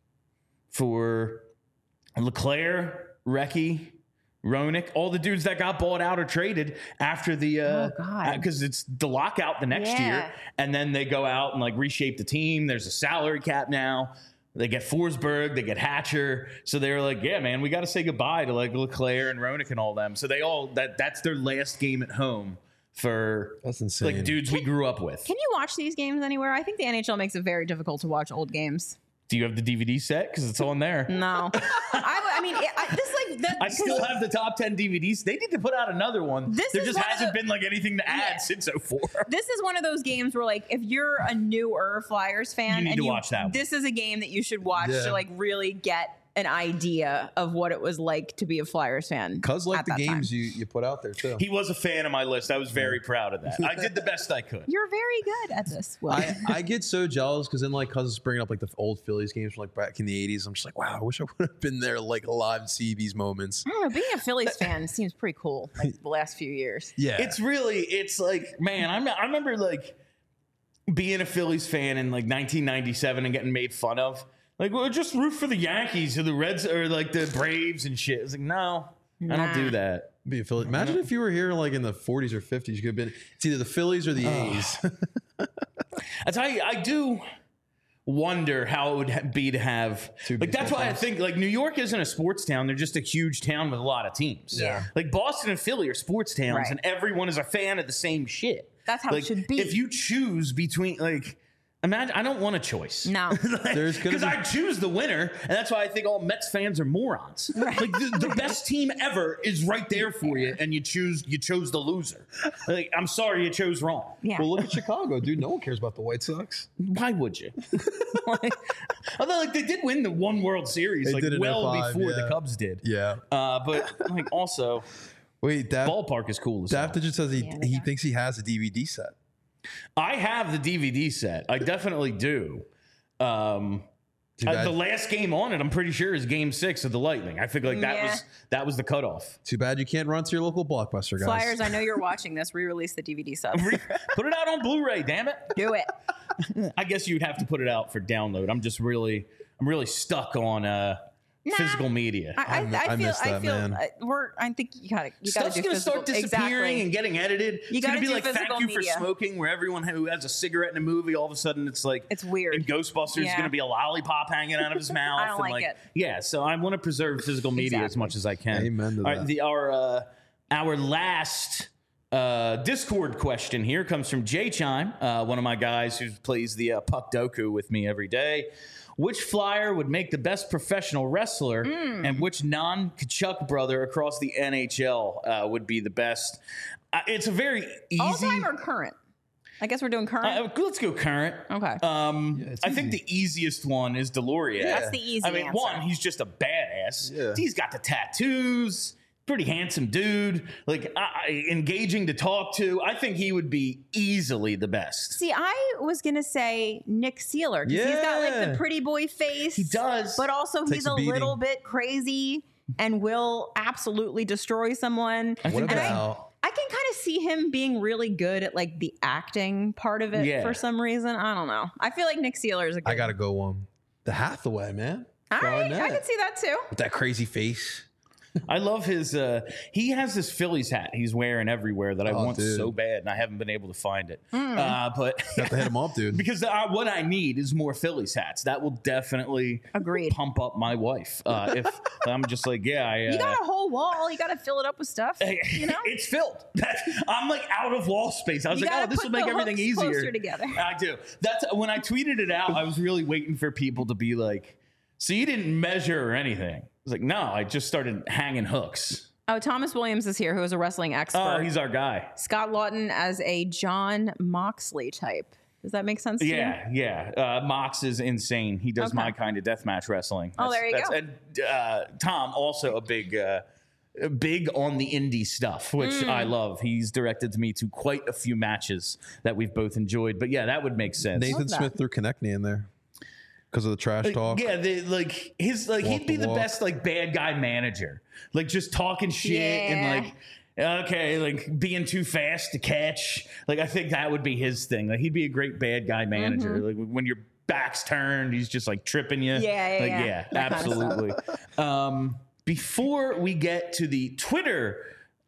for LeClaire, Recchi, Roenick, all the dudes that got bought out or traded after the God. because it's the lockout the next Yeah. year, and then they go out and like reshape the team. There's a salary cap now. They get Forsberg, they get Hatcher, so they were like, yeah, man, we got to say goodbye to like LeClaire and Roenick and all them. So they all that's their last game at home for That's insane. like dudes we grew up with. Can you watch these games anywhere? I think the NHL makes it very difficult to watch old games. Do you have the DVD set? Because it's on there. No. I mean, I still have the top 10 DVDs. They need to put out another one. This There is just one of hasn't the- been like anything to add Yeah. since 04. This is one of those games where, like, if you're a newer Flyers fan, You need and to watch that one. This is a game that you should watch Yeah. to like really get an idea of what it was like to be a Flyers fan. Cuz like at the that games time. you put out there too. He was a fan of my list. I was very proud of that. I did the best I could. You're very good at this. Will. I get so jealous because then like Cousins bringing up like the old Phillies games from like back in the 80s. I'm just like, wow, I wish I would have been there like alive and see these moments. I don't know. Being a Phillies fan seems pretty cool. Like the last few years. Yeah. It's like, man, I remember like being a Phillies fan in like 1997 and getting made fun of. Like, well, just root for the Yankees or the Reds or like the Braves and shit. It's like, no, I don't do that. Be a Philly. Imagine if you were here like in the 40s or 50s, you could have been it's either the Phillies or the A's. That's how I do wonder how it would be to have Two like that's baseball why I teams. think like New York isn't a sports town. They're just a huge town with a lot of teams. Yeah. Like Boston and Philly are sports towns, Right. and everyone is a fan of the same shit. That's how it Like, should be. If you choose between like. Imagine, I don't want a choice. No. There's gonna Because be- I choose the winner, and that's why I think all Mets fans are morons. Like the best team ever is right there for you, and you chose the loser. Like, I'm sorry, you chose wrong. Yeah. Well, look at Chicago, dude. No one cares about the White Sox. Why would you? Although, like, they did win the one World Series, They like, did in well 05, before yeah. the Cubs did. Yeah. But, like, also, Wait, ballpark is cool as hell. Dapta just says he they are. thinks he has a DVD set. I have the DVD set. I definitely do. The last game on it, I'm pretty sure, is Game 6 of the Lightning. I think that was the cutoff. Too bad you can't run to your local Blockbuster, guys. Flyers, I know you're watching this. Re-release the DVD subs. Put it out on Blu-ray, damn it. Do it. I guess you'd have to put it out for download. I'm really stuck on physical media. I miss that, man. I think you gotta Stuff's gonna start disappearing and getting edited. It's gonna be like Thank You for Smoking, where everyone who has a cigarette in a movie, all of a sudden it's like it's weird. In Ghostbusters, it's gonna be a lollipop hanging out of his mouth. I don't like it. Yeah, so I want to preserve physical media as much as I can. Amen to that. Our last Discord question here comes from Jay Chime, one of my guys who plays the Puck Doku with me every day. Which Flyer would make the best professional wrestler, and which non-Kachuk brother across the NHL would be the best? It's a very easy. All-time or current? I guess we're doing current. Let's go current. Okay. I think the easiest one is Delorier. Yeah. That's the easy answer. One, he's just a badass. Yeah. He's got the tattoos. Pretty handsome dude, like engaging to talk to. I think he would be easily the best. See, I was gonna say Nick Seeler because he's got like the pretty boy face. He does, but also he's a little bit crazy and will absolutely destroy someone. What about? I can kind of see him being really good at like the acting part of it for some reason. I don't know. I feel like Nick Seeler is a good. I gotta go one. The Hathaway, man. All right, I can see that too. With that crazy face. I love his. He has this Phillies hat he's wearing everywhere that I want so bad, and I haven't been able to find it. But got to hit him up, dude. Because what I need is more Phillies hats. That will definitely pump up my wife. If I'm just like, you got a whole wall. You got to fill it up with stuff. You know, it's filled. I'm like out of wall space. I was like, this will make everything easier. Closer together. I do. That's when I tweeted it out. I was really waiting for people to be like, "So you didn't measure or anything?" I was like, no, I just started hanging hooks. Oh, Thomas Williams is here, who is a wrestling expert. Oh, he's our guy. Scott Lawton as a John Moxley type. Does that make sense to you? Yeah. Mox is insane. He does my kind of deathmatch wrestling. There you go. And Tom, also a big on the indie stuff, which I love. He's directed me to quite a few matches that we've both enjoyed. But yeah, that would make sense. Nathan Smith threw Konechny in there. Because of the trash talk. Yeah, he'd be the best bad guy manager. Like just talking shit and being too fast to catch. Like I think that would be his thing. Like he'd be a great bad guy manager. Like when your back's turned, he's just like tripping you. Yeah, absolutely. Before we get to the Twitter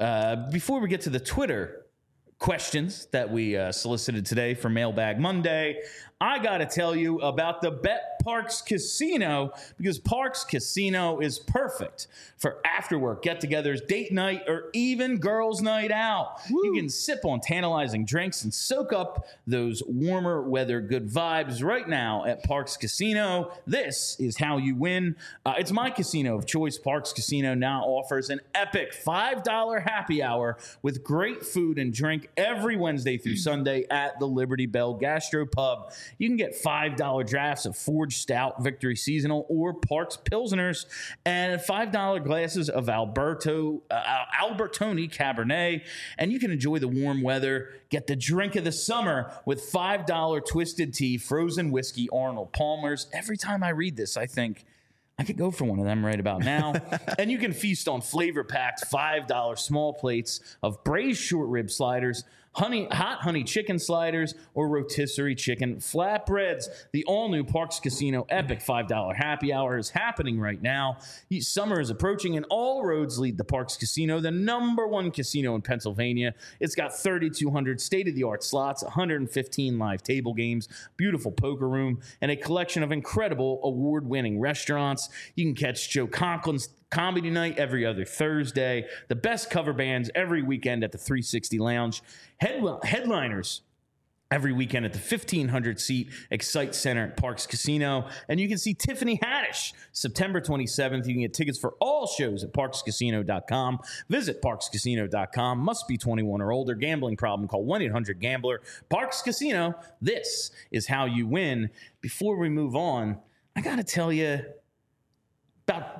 questions that we solicited today for Mailbag Monday, I got to tell you about the Bet Parks Casino, because Parks Casino is perfect for after-work get-togethers, date night, or even girls' night out. Woo. You can sip on tantalizing drinks and soak up those warmer weather good vibes right now at Parks Casino. This is how you win. It's my casino of choice. Parks Casino now offers an epic $5 happy hour with great food and drink every Wednesday through Sunday at the Liberty Bell Gastro Pub. You can get $5 drafts of Forged Stout, Victory Seasonal, or Parks Pilsners, and $5 glasses of Albertoni Cabernet. And you can enjoy the warm weather, get the drink of the summer with $5 Twisted Tea, frozen whiskey, Arnold Palmer's. Every time I read this, I think, I could go for one of them right about now. And you can feast on flavor-packed $5 small plates of braised short rib sliders, hot honey chicken sliders, or rotisserie chicken flatbreads. The all-new Parks Casino Epic $5 Happy Hour is happening right now. Summer is approaching, and all roads lead to Parks Casino, the #1 casino in Pennsylvania. It's got 3,200 state-of-the-art slots, 115 live table games, beautiful poker room, and a collection of incredible award-winning restaurants. You can catch Joe Conklin's Comedy Night every other Thursday, the best cover bands every weekend at the 360 Lounge, headliners every weekend at the 1,500-seat Excite Center at Parks Casino. And you can see Tiffany Haddish September 27th. You can get tickets for all shows at parkscasino.com. Visit parkscasino.com. Must be 21 or older. Gambling problem, call 1-800-GAMBLER. Parks Casino, this is how you win. Before we move on, I got to tell you about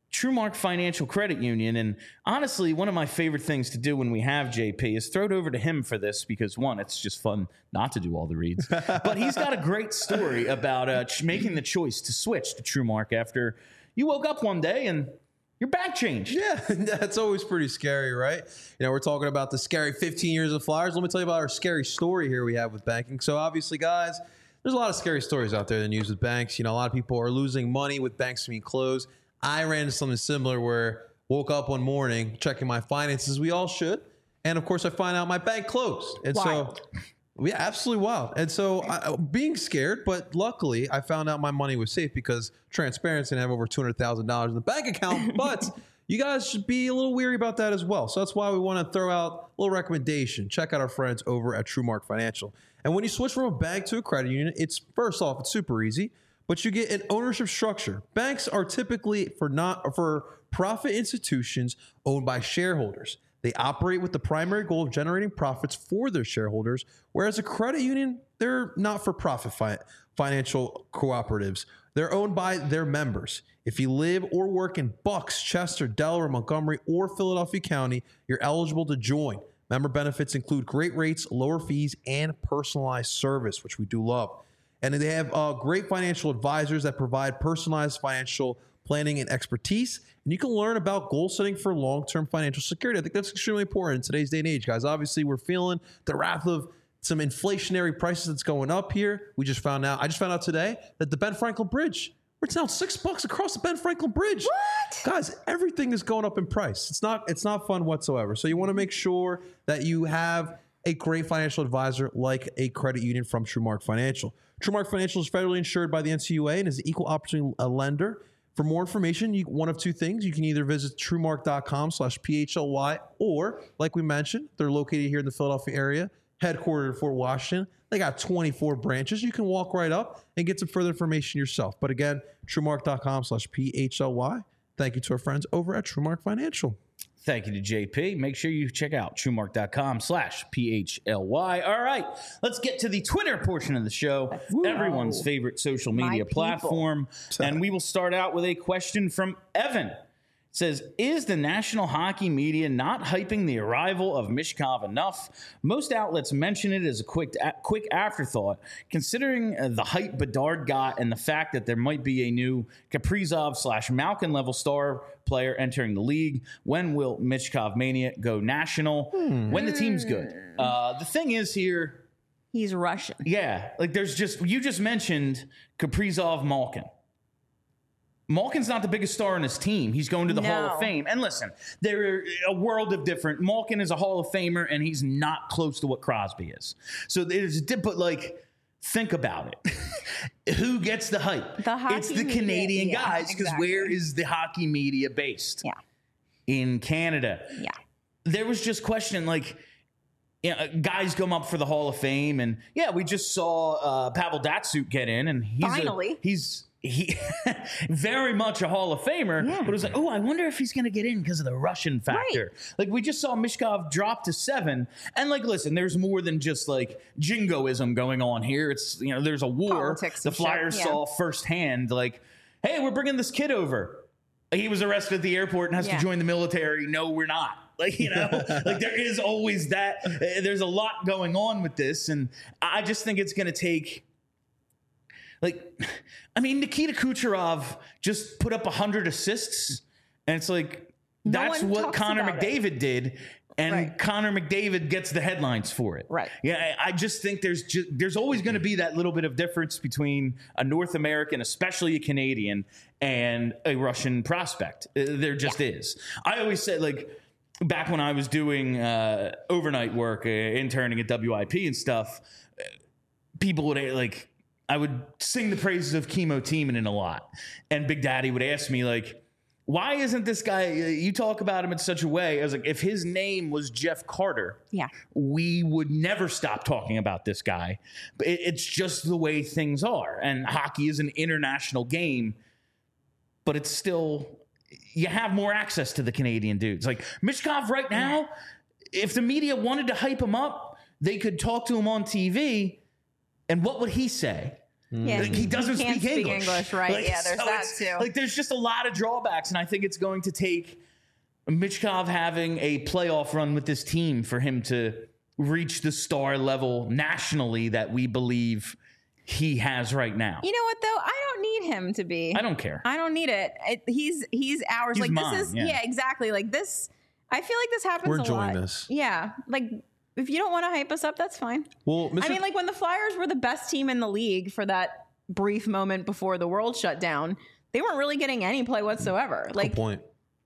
TrueMark Financial Credit Union. And honestly, one of my favorite things to do when we have JP is throw it over to him for this because, one, it's just fun not to do all the reads. But he's got a great story about making the choice to switch to TrueMark after you woke up one day and your bank changed. Yeah, that's always pretty scary, right? We're talking about the scary 15 years of Flyers. Let me tell you about our scary story here we have with banking. So obviously, guys, there's a lot of scary stories out there in the news with banks. A lot of people are losing money with banks being closed. I ran into something similar where woke up one morning checking my finances. We all should. And of course, I find out my bank closed. And Wild. yeah, absolutely wild. And so being scared, but luckily I found out my money was safe because transparency, and I have over $200,000 in the bank account. But you guys should be a little weary about that as well. So that's why we want to throw out a little recommendation. Check out our friends over at TrueMark Financial. And when you switch from a bank to a credit union, it's first off, it's super easy, but you get an ownership structure. Banks are typically for profit institutions owned by shareholders. They operate with the primary goal of generating profits for their shareholders, whereas a credit union, they're not-for-profit financial cooperatives. They're owned by their members. If you live or work in Bucks, Chester, Delaware, Montgomery, or Philadelphia County, you're eligible to join. Member benefits include great rates, lower fees, and personalized service, which we do love. And they have great financial advisors that provide personalized financial planning and expertise. And you can learn about goal setting for long-term financial security. I think that's extremely important in today's day and age, guys. Obviously, we're feeling the wrath of some inflationary prices that's going up here. I just found out today that the Ben Franklin Bridge, it's now $6 across the Ben Franklin Bridge. What? Guys, everything is going up in price. It's not fun whatsoever. So you want to make sure that you have a great financial advisor like a credit union from TrueMark Financial. TrueMark Financial is federally insured by the NCUA and is an equal opportunity lender. For more information, one of two things. You can either visit truemark.com/PHLY, or like we mentioned, they're located here in the Philadelphia area, headquartered in Fort Washington. They got 24 branches. You can walk right up and get some further information yourself. But again, truemark.com/PHLY. Thank you to our friends over at TrueMark Financial. Thank you to JP. Make sure you check out truemark.com/PHLY. All right, let's get to the Twitter portion of the show, everyone's favorite social media platform. And we will start out with a question from Evan. It says, is the national hockey media not hyping the arrival of Michkov enough? Most outlets mention it as a quick afterthought. Considering the hype Bedard got and the fact that there might be a new Kaprizov/Malkin level star player entering the league, when will Michkov mania go national? When the team's good. The thing is here, He's Russian. yeah, like you just mentioned Kaprizov-Malkin. Malkin's not the biggest star on his team. He's going to the Hall of Fame. And listen, they're a world of different. Malkin is a Hall of Famer, and he's not close to what Crosby is. So there's, but like, think about it. Who gets the hype? It's the Canadian guys, because where is the hockey media based? Yeah. In Canada. Yeah. There was just question, like, guys come up for the Hall of Fame, and we just saw Pavel Datsyuk get in, and he's very much a Hall of Famer, but it was like, I wonder if he's going to get in because of the Russian factor. Right. Like, we just saw Michkov drop to 7, and like, listen, there's more than just like jingoism going on here. It's, there's a war. Politics the Flyers saw firsthand, like, hey, we're bringing this kid over. He was arrested at the airport and has to join the military. No, we're not. Like, like there is always that. There's a lot going on with this, and I just think it's going to take. Like, I mean, Nikita Kucherov just put up 100 assists, and it's like, that's what Connor McDavid did, and Connor McDavid gets the headlines for it. Right. Yeah, I just think there's always going to be that little bit of difference between a North American, especially a Canadian, and a Russian prospect. There just is. I always said, like, back when I was doing overnight work, interning at WIP and stuff, people would, like, I would sing the praises of Kimmo Timonen a lot. And Big Daddy would ask me, like, why isn't this guy, you talk about him in such a way. I was like, if his name was Jeff Carter, we would never stop talking about this guy. But it's just the way things are. And hockey is an international game, but it's still, you have more access to the Canadian dudes. Like, Michkov right now, if the media wanted to hype him up, they could talk to him on TV. And what would he say? Yeah, Like, he doesn't can't speak English. right? Like, Yeah, there's so that it's- too. Like, there's just a lot of drawbacks, and I think it's going to take Michkov having a playoff run with this team for him to reach the star level nationally that we believe he has right now. You know what though? I don't need him to be. I don't care. I don't need it. He's ours. He's like mine, this is yeah. exactly. Like this. I feel like this happens We're a enjoying lot. this. Yeah, like if you don't want to hype us up, that's fine. Well, Mr. I mean, like when the Flyers were the best team in the league for that brief moment before the world shut down, they weren't really getting any play whatsoever. Like good point.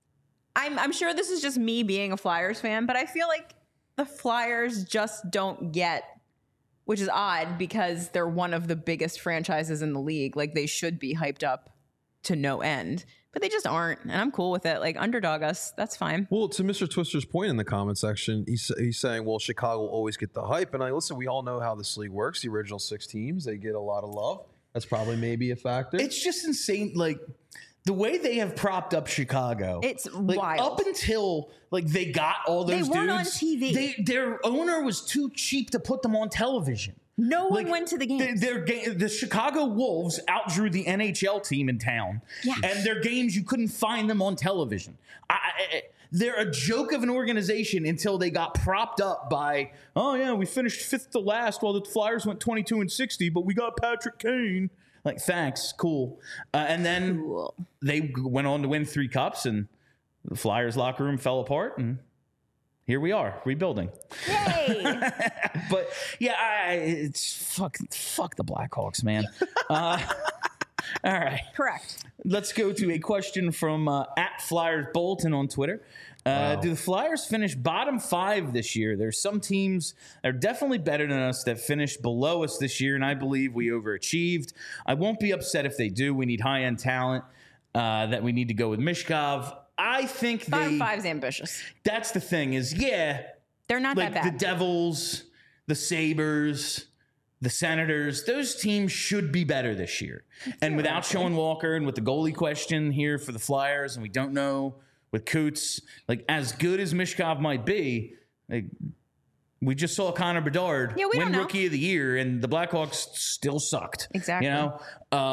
I'm sure this is just me being a Flyers fan, but I feel like the Flyers just don't get, which is odd because they're one of the biggest franchises in the league. Like they should be hyped up to no end, but they just aren't. And I'm cool with it. Like underdog us, that's fine. Well, to Mr. Twister's point in the comment section, he's saying, well, Chicago will always get the hype. And listen, we all know how this league works. The original 6 teams, they get a lot of love. That's probably maybe a factor. It's just insane. Like the way they have propped up Chicago. It's like, wild. Up until like they got all those They weren't on dudes, TV. Their owner was too cheap to put them on television. No one Like, went to the game. The Chicago Wolves outdrew the NHL team in town, Yes. and their games you couldn't find them on television. They're a joke of an organization until they got propped up by, oh yeah, we finished 5th to last while the Flyers went 22-60, but we got Patrick Kane. Like, thanks, cool. And then Cool. they went on to win 3 cups, and the Flyers locker room fell apart, and here we are rebuilding. Yay! But yeah, it's fuck the Blackhawks, man. All right, Correct. let's go to a question from at Flyers Bolton on Twitter. Do the Flyers finish bottom 5 this year? There's some teams that are definitely better than us that finished below us this year, and I believe we overachieved. I won't be upset if they do. We need high-end talent that we need to go with Michkov. I think Bottom 5's ambitious. that's the thing is, yeah, They're not like that the bad. Devils, the Sabres, the Senators, those teams should be better this year. And without Sean Walker and with the goalie question here for the Flyers, and we don't know with Coots, like as good as Michkov might be, like we just saw Connor Bedard Yeah, we win don't know. Rookie of the Year, and the Blackhawks still sucked. Exactly. You know,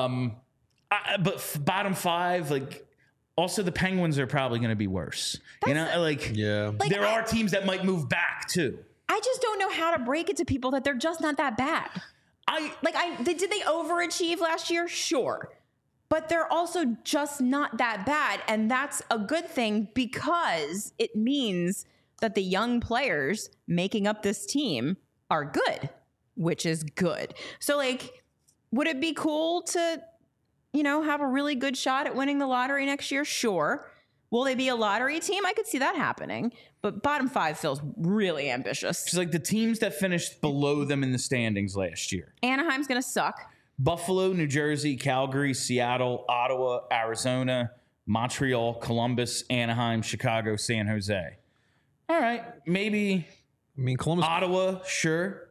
but bottom 5, like. Also, the Penguins are probably going to be worse. You know, like yeah. Like, there are teams that might move back too. I just don't know how to break it to people that they're just not that bad. Did they overachieve last year? Sure. But they're also just not that bad. And that's a good thing because it means that the young players making up this team are good, which is good. So, like, would it be cool to, have a really good shot at winning the lottery next year? Sure. Will they be a lottery team? I could see that happening. But bottom 5 feels really ambitious. It's like the teams that finished below them in the standings last year. Anaheim's going to suck. Buffalo, New Jersey, Calgary, Seattle, Ottawa, Arizona, Montreal, Columbus, Anaheim, Chicago, San Jose. All right. Maybe I mean, Columbus. Ottawa, sure.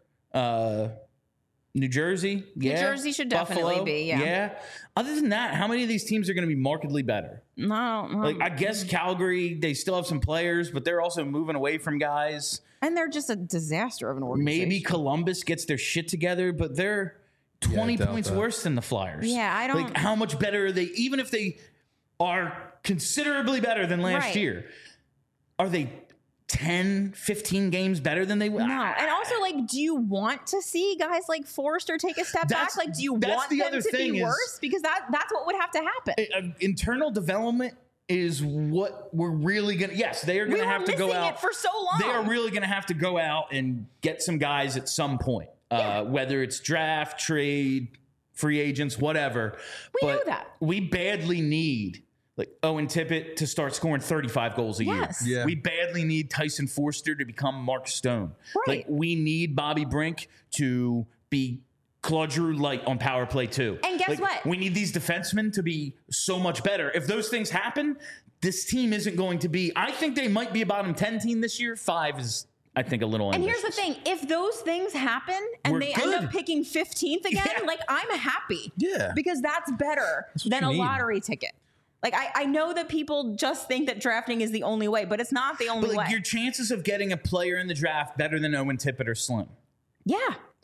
New Jersey, yeah. New Jersey should definitely Buffalo, be, yeah. Yeah. Other than that, how many of these teams are going to be markedly better? No. Like, I guess Calgary, they still have some players, but they're also moving away from guys. And they're just a disaster of an organization. Maybe Columbus gets their shit together, but they're 20 doubt points that. worse than the Flyers. Yeah, I don't- Like, how much better are they? Even if they are considerably better than last Right. year, are they 10, 15 games better than they were? No. And also, like, do you want to see guys like Forrester take a step That's- back? Like, do you that's want the them other to thing be is- worse? Because that's what would have to happen. Internal development is what we're really going to. Yes, they are We going to were have to go missing out. it for so long. They are really going to have to go out and get some guys at some point, whether it's draft, trade, free agents, whatever. We But know that. we badly need like Owen Tippett to start scoring 35 goals a Yes. year. Yeah. We badly need Tyson Forster to become Mark Stone. Right. Like we need Bobby Brink to be Claude Giroux light on power play too. And guess Like, what? We need these defensemen to be so much better. If those things happen, this team isn't going to be. I think they might be a bottom 10 team this year. 5 is, I think, a little. And ambitious. here's the thing: if those things happen and We're they end good. up picking 15th again, Yeah. like I'm happy. Yeah. Because that's better what than you a need. lottery ticket. Like I know that people just think that drafting is the only way, but it's not the only But like, way. your chances of getting a player in the draft better than Owen Tippett are slim. Yeah.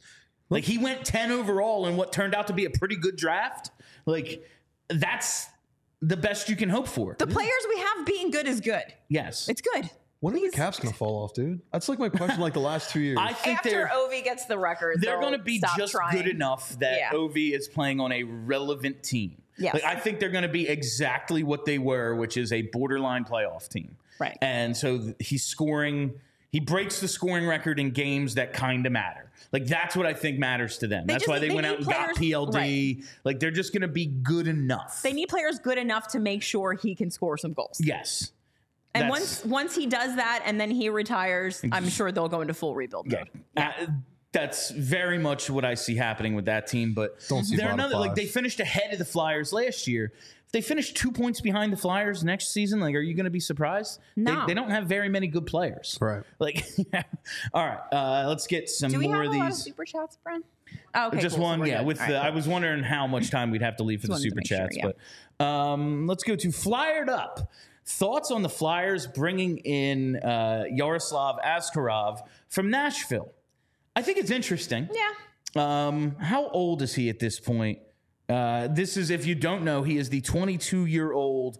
Like he went 10 overall in what turned out to be a pretty good draft. Like that's the best you can hope for. The players we have being good is good. Yes. It's good. When are the Caps going to fall off, dude? That's like my question like the last 2 years. I think After Ovi gets the record, they're going to be just good enough that Ovi is playing on a relevant team. Yes. Like, I think they're going to be exactly what they were, which is a borderline playoff team. Right. And so he's scoring. He breaks the scoring record in games that kind of matter. Like, that's what I think matters to them. That's why they went out and got PLD. Right. Like, they're just going to be good enough. They need players good enough to make sure he can score some goals. Yes. And once he does that and then he retires, I'm sure they'll go into full rebuild mode. Yeah. That's very much what I see happening with that team. But they're another, like, they finished ahead of the Flyers last year. If they finish 2 points behind the Flyers next season, like, are you going to be surprised? No. They don't have very many good players. Right. Like, all right, let's get some more of these. Do we have a lot of super chats, Bren? Oh, okay, just cool. one, So yeah. good. I was wondering how much time we'd have to leave for the super chats. But let's go to Flyered Up. Thoughts on the Flyers bringing in Yaroslav Askarov from Nashville? I think it's interesting. Yeah. How old is he at this point? This is, if you don't know, he is the 22-year-old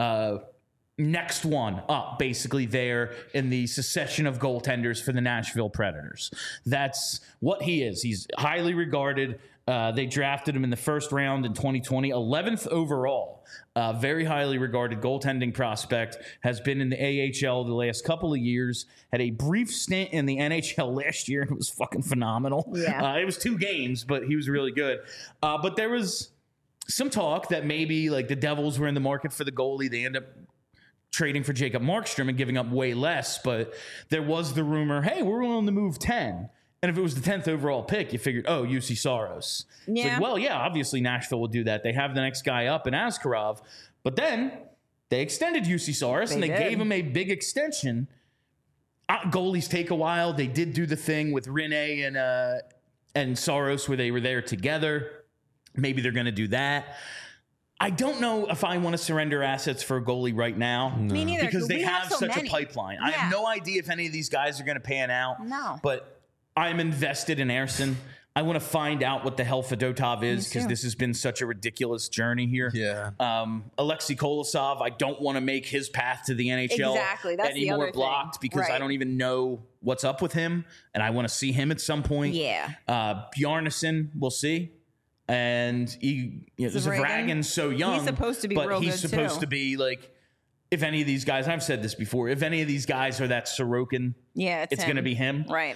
next one up, basically, there in the succession of goaltenders for the Nashville Predators. That's what he is. He's highly regarded. They drafted him in the first round in 2020, 11th overall. Very highly regarded goaltending prospect, has been in the AHL the last couple of years, had a brief stint in the NHL last year, and it was fucking phenomenal. Yeah. It was 2 games, but he was really good. But there was some talk that maybe like the Devils were in the market for the goalie. They end up trading for Jacob Markstrom and giving up way less, but there was the rumor, hey, we're willing to move 10. And if it was the 10th overall pick, you figured, oh, UC Saros. Yeah. It's like, well, yeah, obviously Nashville will do that. They have the next guy up in Askarov. But then they extended UC Saros and they gave him a big extension. Goalies take a while. They did do the thing with Rene and Saros where they were there together. Maybe they're going to do that. I don't know if I want to surrender assets for a goalie right now. No. Me neither. Because they have so such many. a pipeline. Yeah. I have no idea if any of these guys are going to pan out. No. But I'm invested in Ersson. I want to find out what the hell Fedotov is because this has been such a ridiculous journey here. Yeah. Alexei Kolosov, I don't want to make his path to the NHL any more blocked because I don't even know what's up with him, and I want to see him at some point. Yeah. Bjarnason, we'll see. And Zvraggin's so young. He's supposed to be real good, he's supposed to be like, if any of these guys, I've said this before, if any of these guys are that Sorokin, it's going to be him. Right.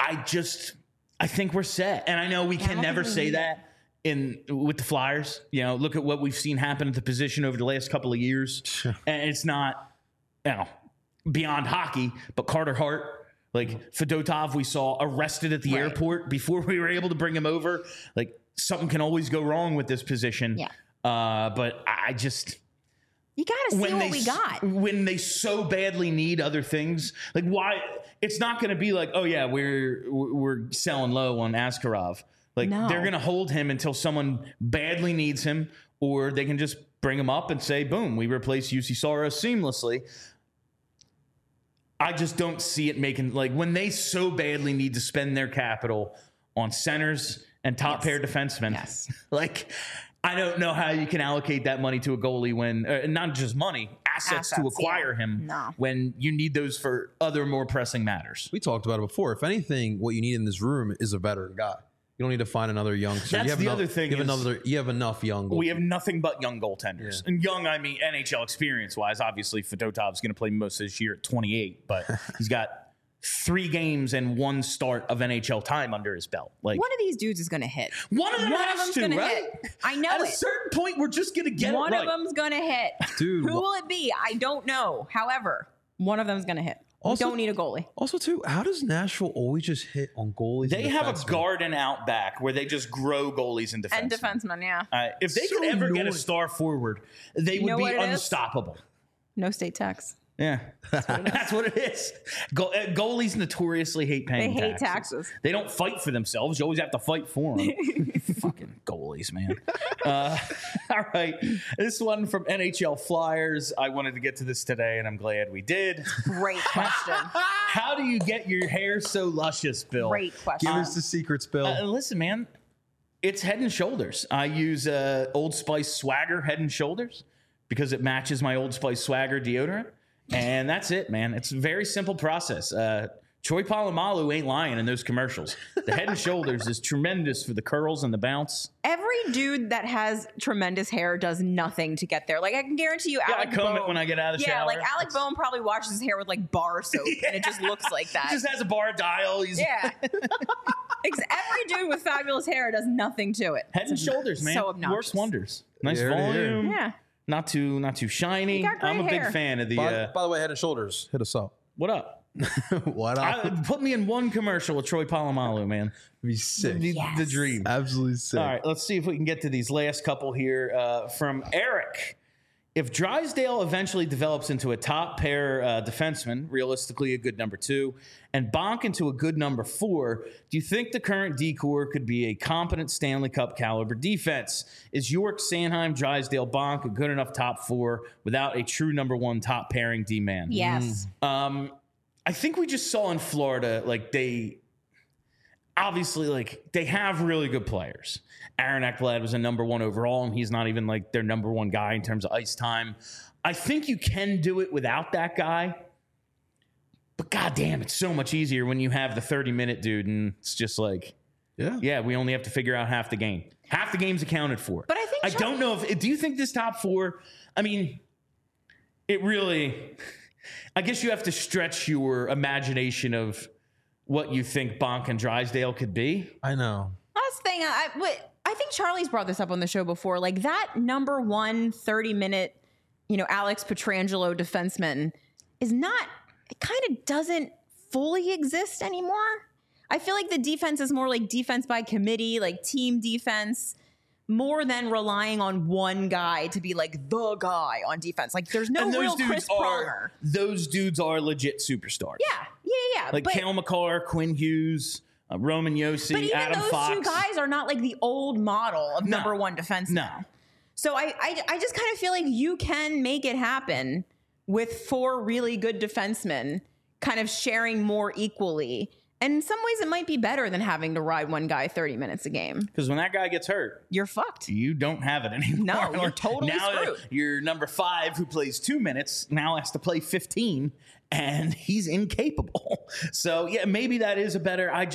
I think we're set. And I know we can never say that with the Flyers. You know, look at what we've seen happen at the position over the last couple of years. And it's not, beyond hockey, but Carter Hart, like Fedotov, we saw arrested at the airport before we were able to bring him over. Like, something can always go wrong with this position. Yeah. But I just... You got to see what we got. When they so badly need other things, like why it's not going to be like, oh yeah, we're selling low on Askarov. Like they're going to hold him until someone badly needs him, or they can just bring him up and say, boom, we replace UC Saros seamlessly. I just don't see it making, like, when they so badly need to spend their capital on centers and top pair defensemen. Like, I don't know how you can allocate that money to a goalie when, not just money, assets to acquire him when you need those for other more pressing matters. We talked about it before. If anything, what you need in this room is a veteran guy. You don't need to find another young. So That's the other thing. You have enough young goaltenders. We have nothing but young goaltenders. And young, I mean, NHL experience-wise, obviously Fedotov's going to play most of this year at 28, but he's got 3 games and 1 start of NHL time under his belt. Like, one of these dudes is going to hit. One of them has to, right? Hit. I know. At a certain point, we're just going to get one it right. One of them's going to hit. Dude, who will it be? I don't know. However, one of them's going to hit. Also, we don't need a goalie. Also, too, how does Nashville always just hit on goalies? They have a garden out back where they just grow goalies and defensemen. And defensemen, yeah. If they could ever get a star forward, they would be unstoppable. No state tax. Yeah, that's what it is. Goalies notoriously hate paying They hate taxes. They don't fight for themselves. You always have to fight for them. Fucking goalies, man. All right. This one from NHL Flyers. I wanted to get to this today, and I'm glad we did. Great question. How do you get your hair so luscious, Bill? Great question. Give us the secrets, Bill. Listen, man. It's Head and Shoulders. I use Old Spice Swagger Head and Shoulders because it matches my Old Spice Swagger deodorant. And that's it, man. It's a very simple process. Troy Polamalu ain't lying in those commercials. The Head and Shoulders is tremendous for the curls and the bounce. Every dude that has tremendous hair does nothing to get there. Like, I can guarantee you, Yeah, Alec I comb Boehm, it when I get out of the shower. like Alec Boehm probably washes his hair with like bar soap, and it just looks like that. He just has a bar dial. Yeah. Every dude with fabulous hair does nothing to it. Head and Shoulders, man. So obnoxious. Works wonders. Nice Here to hear. volume. Yeah. Not too shiny. You got great I'm a big hair. fan of the. By the way, Head and Shoulders, hit us up. What up? What up? Put me in one commercial with Troy Polamalu, man. Be sick. Yes. The dream. Absolutely sick. All right, let's see if we can get to these last couple here from Eric. If Drysdale eventually develops into a top pair defenseman, realistically a good number 2, and Bonk into a good number 4, do you think the current D-core could be a competent Stanley Cup caliber defense? Is York, Sanheim, Drysdale, Bonk a good enough top 4 without a true number 1 top pairing D-man? Yes. I think we just saw in Florida, like they obviously they have really good players. Aaron Ekblad was a number 1 overall, and he's not even like their number 1 guy in terms of ice time. I think you can do it without that guy, but goddamn, it's so much easier when you have the 30-minute dude, and it's just like, yeah, we only have to figure out half the game. Half the game's accounted for. But I think don't know if. Do you think this top 4? I mean, it really. I guess you have to stretch your imagination of what you think Bonk and Drysdale could be. I know. Last thing, I think Charlie's brought this up on the show before. Like that number 1 30-minute, Alex Pietrangelo defenseman is not. It kind of doesn't fully exist anymore. I feel like the defense is more like defense by committee, like team defense, more than relying on one guy to be like the guy on defense. Like there's no real Chris Pronger. Those dudes are legit superstars. Yeah. Like Cale Makar, Quinn Hughes, Roman Yossi, but even Adam those Fox. two guys are not like the old model of number 1 defenseman. No. So I just kind of feel like you can make it happen with 4 really good defensemen kind of sharing more equally. And in some ways, it might be better than having to ride one guy 30 minutes a game. Because when that guy gets hurt, you're fucked. You don't have it anymore. No, you're totally screwed. Your number 5, who plays 2 minutes, now has to play 15, and he's incapable. So, yeah, maybe that is a better. I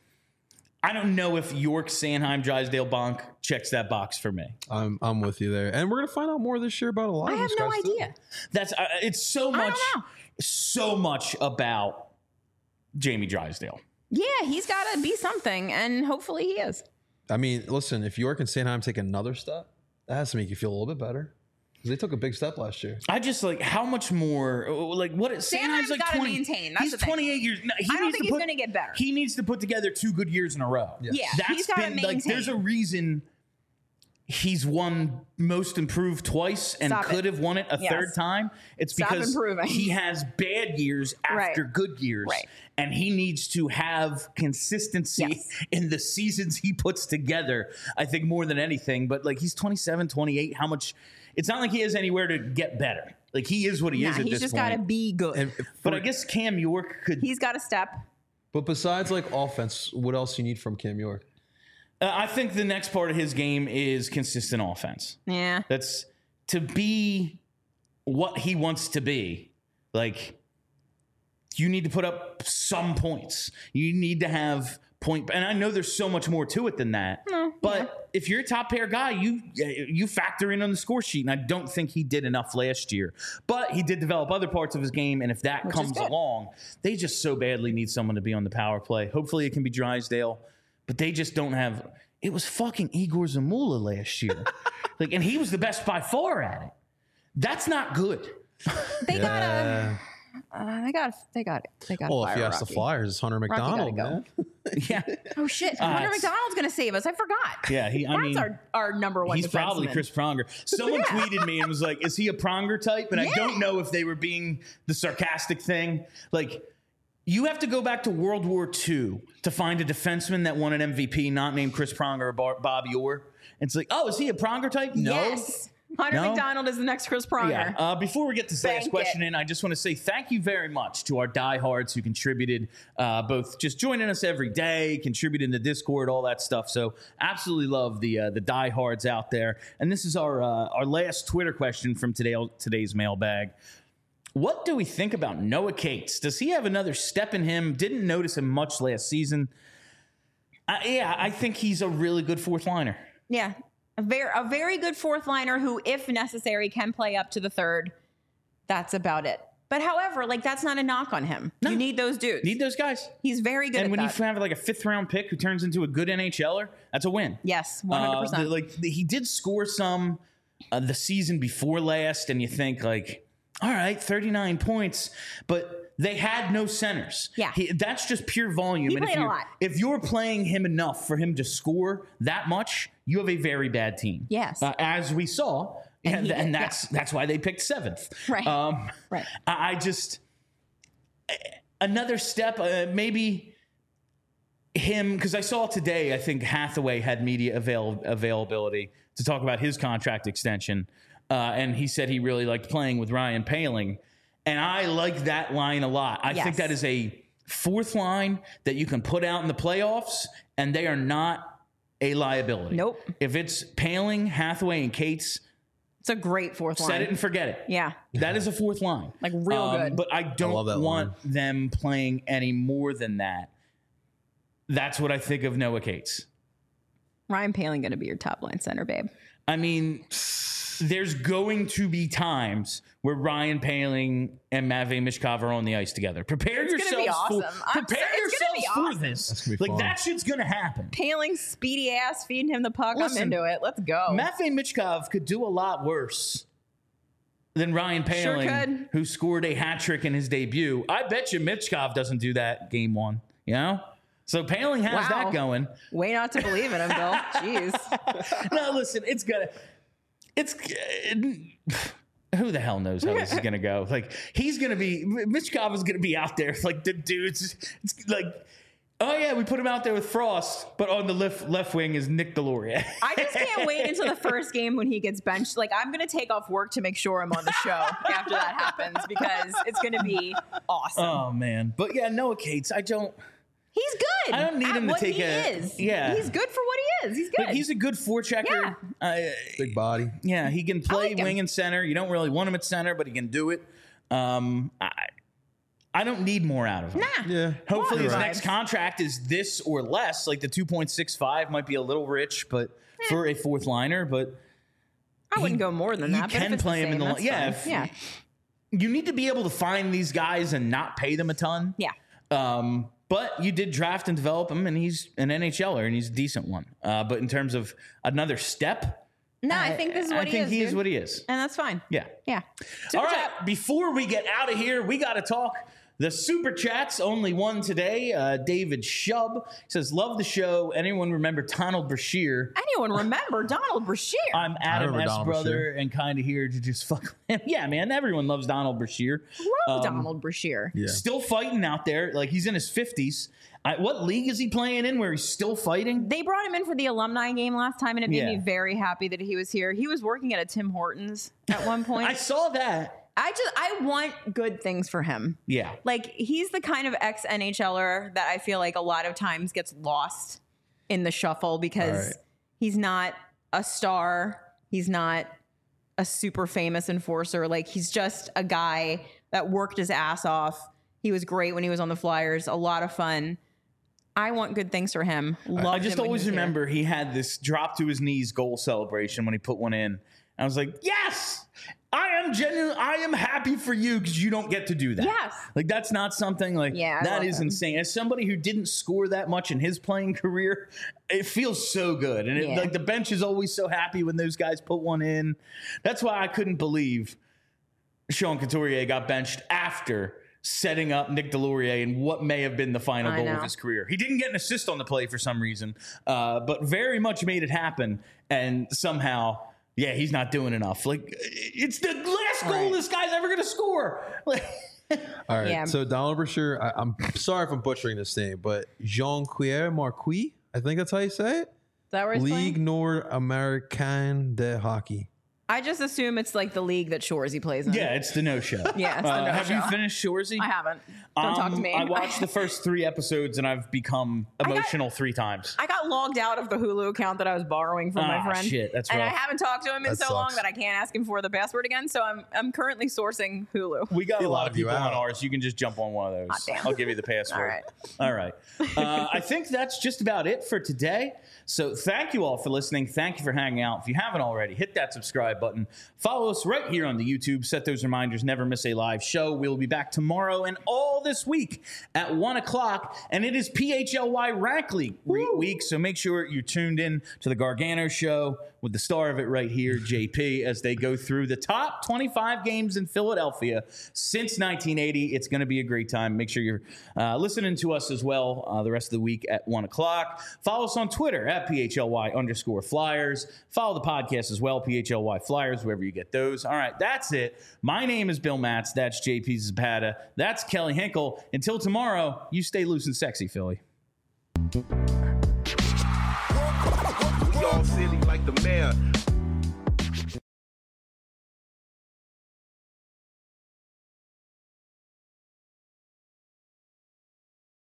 don't know if York, Sanheim, Drysdale, Bonk checks that box for me. I'm with you there, and we're gonna find out more this year about a lot. I of have these no guys idea. Too. That's it's so much about Jamie Drysdale. Yeah, he's got to be something, and hopefully he is. I mean, listen, if York and Sanheim take another step, that has to make you feel a little bit better. Because they took a big step last year. I just how much more, what Sanheim's like got to 20, maintain. That's he's the thing. 28 years. No, I don't think he's going to get better. He needs to put together 2 good years in a row. Yes. Yeah, he's got to maintain. There's a reason he's won most improved twice and could have won it a third time. It's because improving. he has bad years after good years. Right. And he needs to have consistency in the seasons he puts together, I think, more than anything. But he's 27, 28. How much? It's not like he has anywhere to get better. He is what he is at this point. He's just got to be good. But I guess Cam York could. He's got to step. But besides offense, what else you need from Cam York? I think the next part of his game is consistent offense. Yeah. That's to be what he wants to be. You need to put up some points. You need to have point. And I know there's so much more to it than that. But if you're a top pair guy, you factor in on the score sheet. And I don't think he did enough last year. But he did develop other parts of his game. And if that comes along, they just so badly need someone to be on the power play. Hopefully it can be Drysdale. But they just don't have. It was fucking Igor Zamula last year. And he was the best by far at it. That's not good. They got it. They got. Well, if you ask the Flyers, it's Hunter McDonald, go. man. Yeah. Oh shit! Hunter McDonald's gonna save us. I forgot. Yeah, That's our number one. He's probably defenseman. Chris Pronger. Someone tweeted me and was like, "Is he a Pronger type?" And I don't know if they were being the sarcastic thing. Like, you have to go back to World War II to find a defenseman that won an MVP not named Chris Pronger or Bobby Orr. And it's like, oh, is he a Pronger type? No. Yes. Hunter McDonald is the next Chris Pronger. Yeah. Before we get this last question in, I just want to say thank you very much to our diehards who contributed, both just joining us every day, contributing to Discord, all that stuff. So absolutely love the diehards out there. And this is our last Twitter question from today's mailbag. What do we think about Noah Cates? Does he have another step in him? Didn't notice him much last season. I think he's a really good fourth liner. Yeah. A very good fourth liner who, if necessary, can play up to the third. That's about it. But however, like, that's not a knock on him. No. You need those dudes. Need those guys. He's very good and at that. And when you have like a 5th round pick who turns into a good NHLer, that's a win. Yes, 100%. He did score some the season before last, and you think like, all right, 39 points, but they had no centers. Yeah. That's just pure volume. He played a lot. If you're playing him enough for him to score that much, you have a very bad team. Yes. As we saw. And that's why they picked 7th. Right. Right. I just another step, maybe him, because I saw today, I think Hathaway had media availability to talk about his contract extension. And he said he really liked playing with Ryan Poehling. And I like that line a lot. I think that is a fourth line that you can put out in the playoffs, and they are not a liability. Nope. If it's Poehling, Hathaway, and Cates, it's a great fourth line. Set it and forget it. Yeah. That is a fourth line. Like, real good. But I don't want them playing any more than that. That's what I think of Noah Cates. Ryan Poehling going to be your top line center, babe. I mean, there's going to be times where Ryan Poehling and Matvei Michkov are on the ice together. Prepare yourselves for this. Like, that shit's going to happen. Poehling's speedy ass feeding him the puck. Listen, I'm into it. Let's go. Matvei Michkov could do a lot worse than Ryan Poehling, who scored a hat trick in his debut. I bet you Michkov doesn't do that game one, you know? So Poehling has that going. Way not to believe in him, Bill. Jeez. No, listen, who the hell knows how this is going to go? Like, Michkov is going to be out there. Like, the dudes, it's like, oh yeah, we put him out there with Frost, but on the left wing is Nick Deslauriers. I just can't wait until the first game when he gets benched. Like, I'm going to take off work to make sure I'm on the show after that happens, because it's going to be awesome. Oh man. But yeah, Noah Cates, he's good. I don't need him to take Yeah. He's good for what he is. He's good. But he's a good forechecker. Yeah. Big body. Yeah, he can play wing and center. You don't really want him at center, but he can do it. I don't need more out of him. Nah. Yeah. Hopefully his next contract is this or less. Like, the 2.65 might be a little rich, but for a fourth liner, but I wouldn't go more than that. You can play him in the yeah. You need to be able to find these guys and not pay them a ton. Yeah. But you did draft and develop him, and he's an NHLer, and he's a decent one. But in terms of another step, no, I think this is what he is. I think he is what he is. And that's fine. Yeah. Yeah. All right. Before we get out of here, we got to talk the super chats. Only one today. David Shub says, love the show. Anyone remember Donald Brashear? Anyone remember Donald Brashear? I'm Adam S. brother and kind of here to just fuck with him. Yeah, man. Everyone loves Donald Brashear. Love Donald Brashear. Yeah. Still fighting out there. Like, he's in his 50s. What league is he playing in where he's still fighting? They brought him in for the alumni game last time, and it made me very happy that he was here. He was working at a Tim Hortons at one point. I saw that. I want good things for him. Yeah. Like, he's the kind of ex-NHLer that I feel like a lot of times gets lost in the shuffle because he's not a star. He's not a super famous enforcer. Like, he's just a guy that worked his ass off. He was great when he was on the Flyers. A lot of fun. I want good things for him. I just always remember he had this drop to his knees goal celebration when he put one in. I was like, yes, I am happy for you because you don't get to do that. Yes. Like, that's not something like, that is insane. As somebody who didn't score that much in his playing career, it feels so good. And like, the bench is always so happy when those guys put one in. That's why I couldn't believe Sean Couturier got benched after setting up Nick Delorier in what may have been the final I goal know. of his career. He didn't get an assist on the play for some reason, but very much made it happen. And somehow, yeah, he's not doing enough. Like, it's the last goal Right. this guy's ever going to score. Like, All right. Yeah. So Donald Brashear, I'm sorry if I'm butchering this name, but Jean-Pierre Marquis, I think that's how you say it. Is that where he's Ligue playing? Nord Américaine de Hockey. I just assume it's like the league that Shoresy plays in. yeah, it's the no-show. Yeah, it's the Have you no-show. finished Shoresy? I haven't. Don't talk to me. I watched the first 3 episodes and I've become emotional 3 times. I got logged out of the Hulu account that I was borrowing from my friend. Shit, that's and rough. I haven't talked to him in That so long sucks. that I can't ask him for the password again. So I'm currently sourcing Hulu. We got a lot of logged you people on out. ours. You can just jump on one of those. Hot damn. I'll give you the password. All All right. I think that's just about it for today. So thank you all for listening. Thank you for hanging out. If you haven't already, hit that subscribe button. Follow us right here on the YouTube. Set those reminders. Never miss a live show. We'll be back tomorrow and all this week at 1 o'clock. And it is PHLY Rack League week. So make sure you're tuned in to the Gargano show with the star of it right here, JP, as they go through the top 25 games in Philadelphia since 1980. It's going to be a great time. Make sure you're listening to us as well the rest of the week at 1 o'clock. Follow us on Twitter at PHLY_Flyers. Follow the podcast as well, PHLY Flyers, wherever you get those. All right, that's it. My name is Bill Matz. That's JP Zapata. That's Kelly Hinkle. Until tomorrow, you stay loose and sexy, Philly. We all silly like the mayor.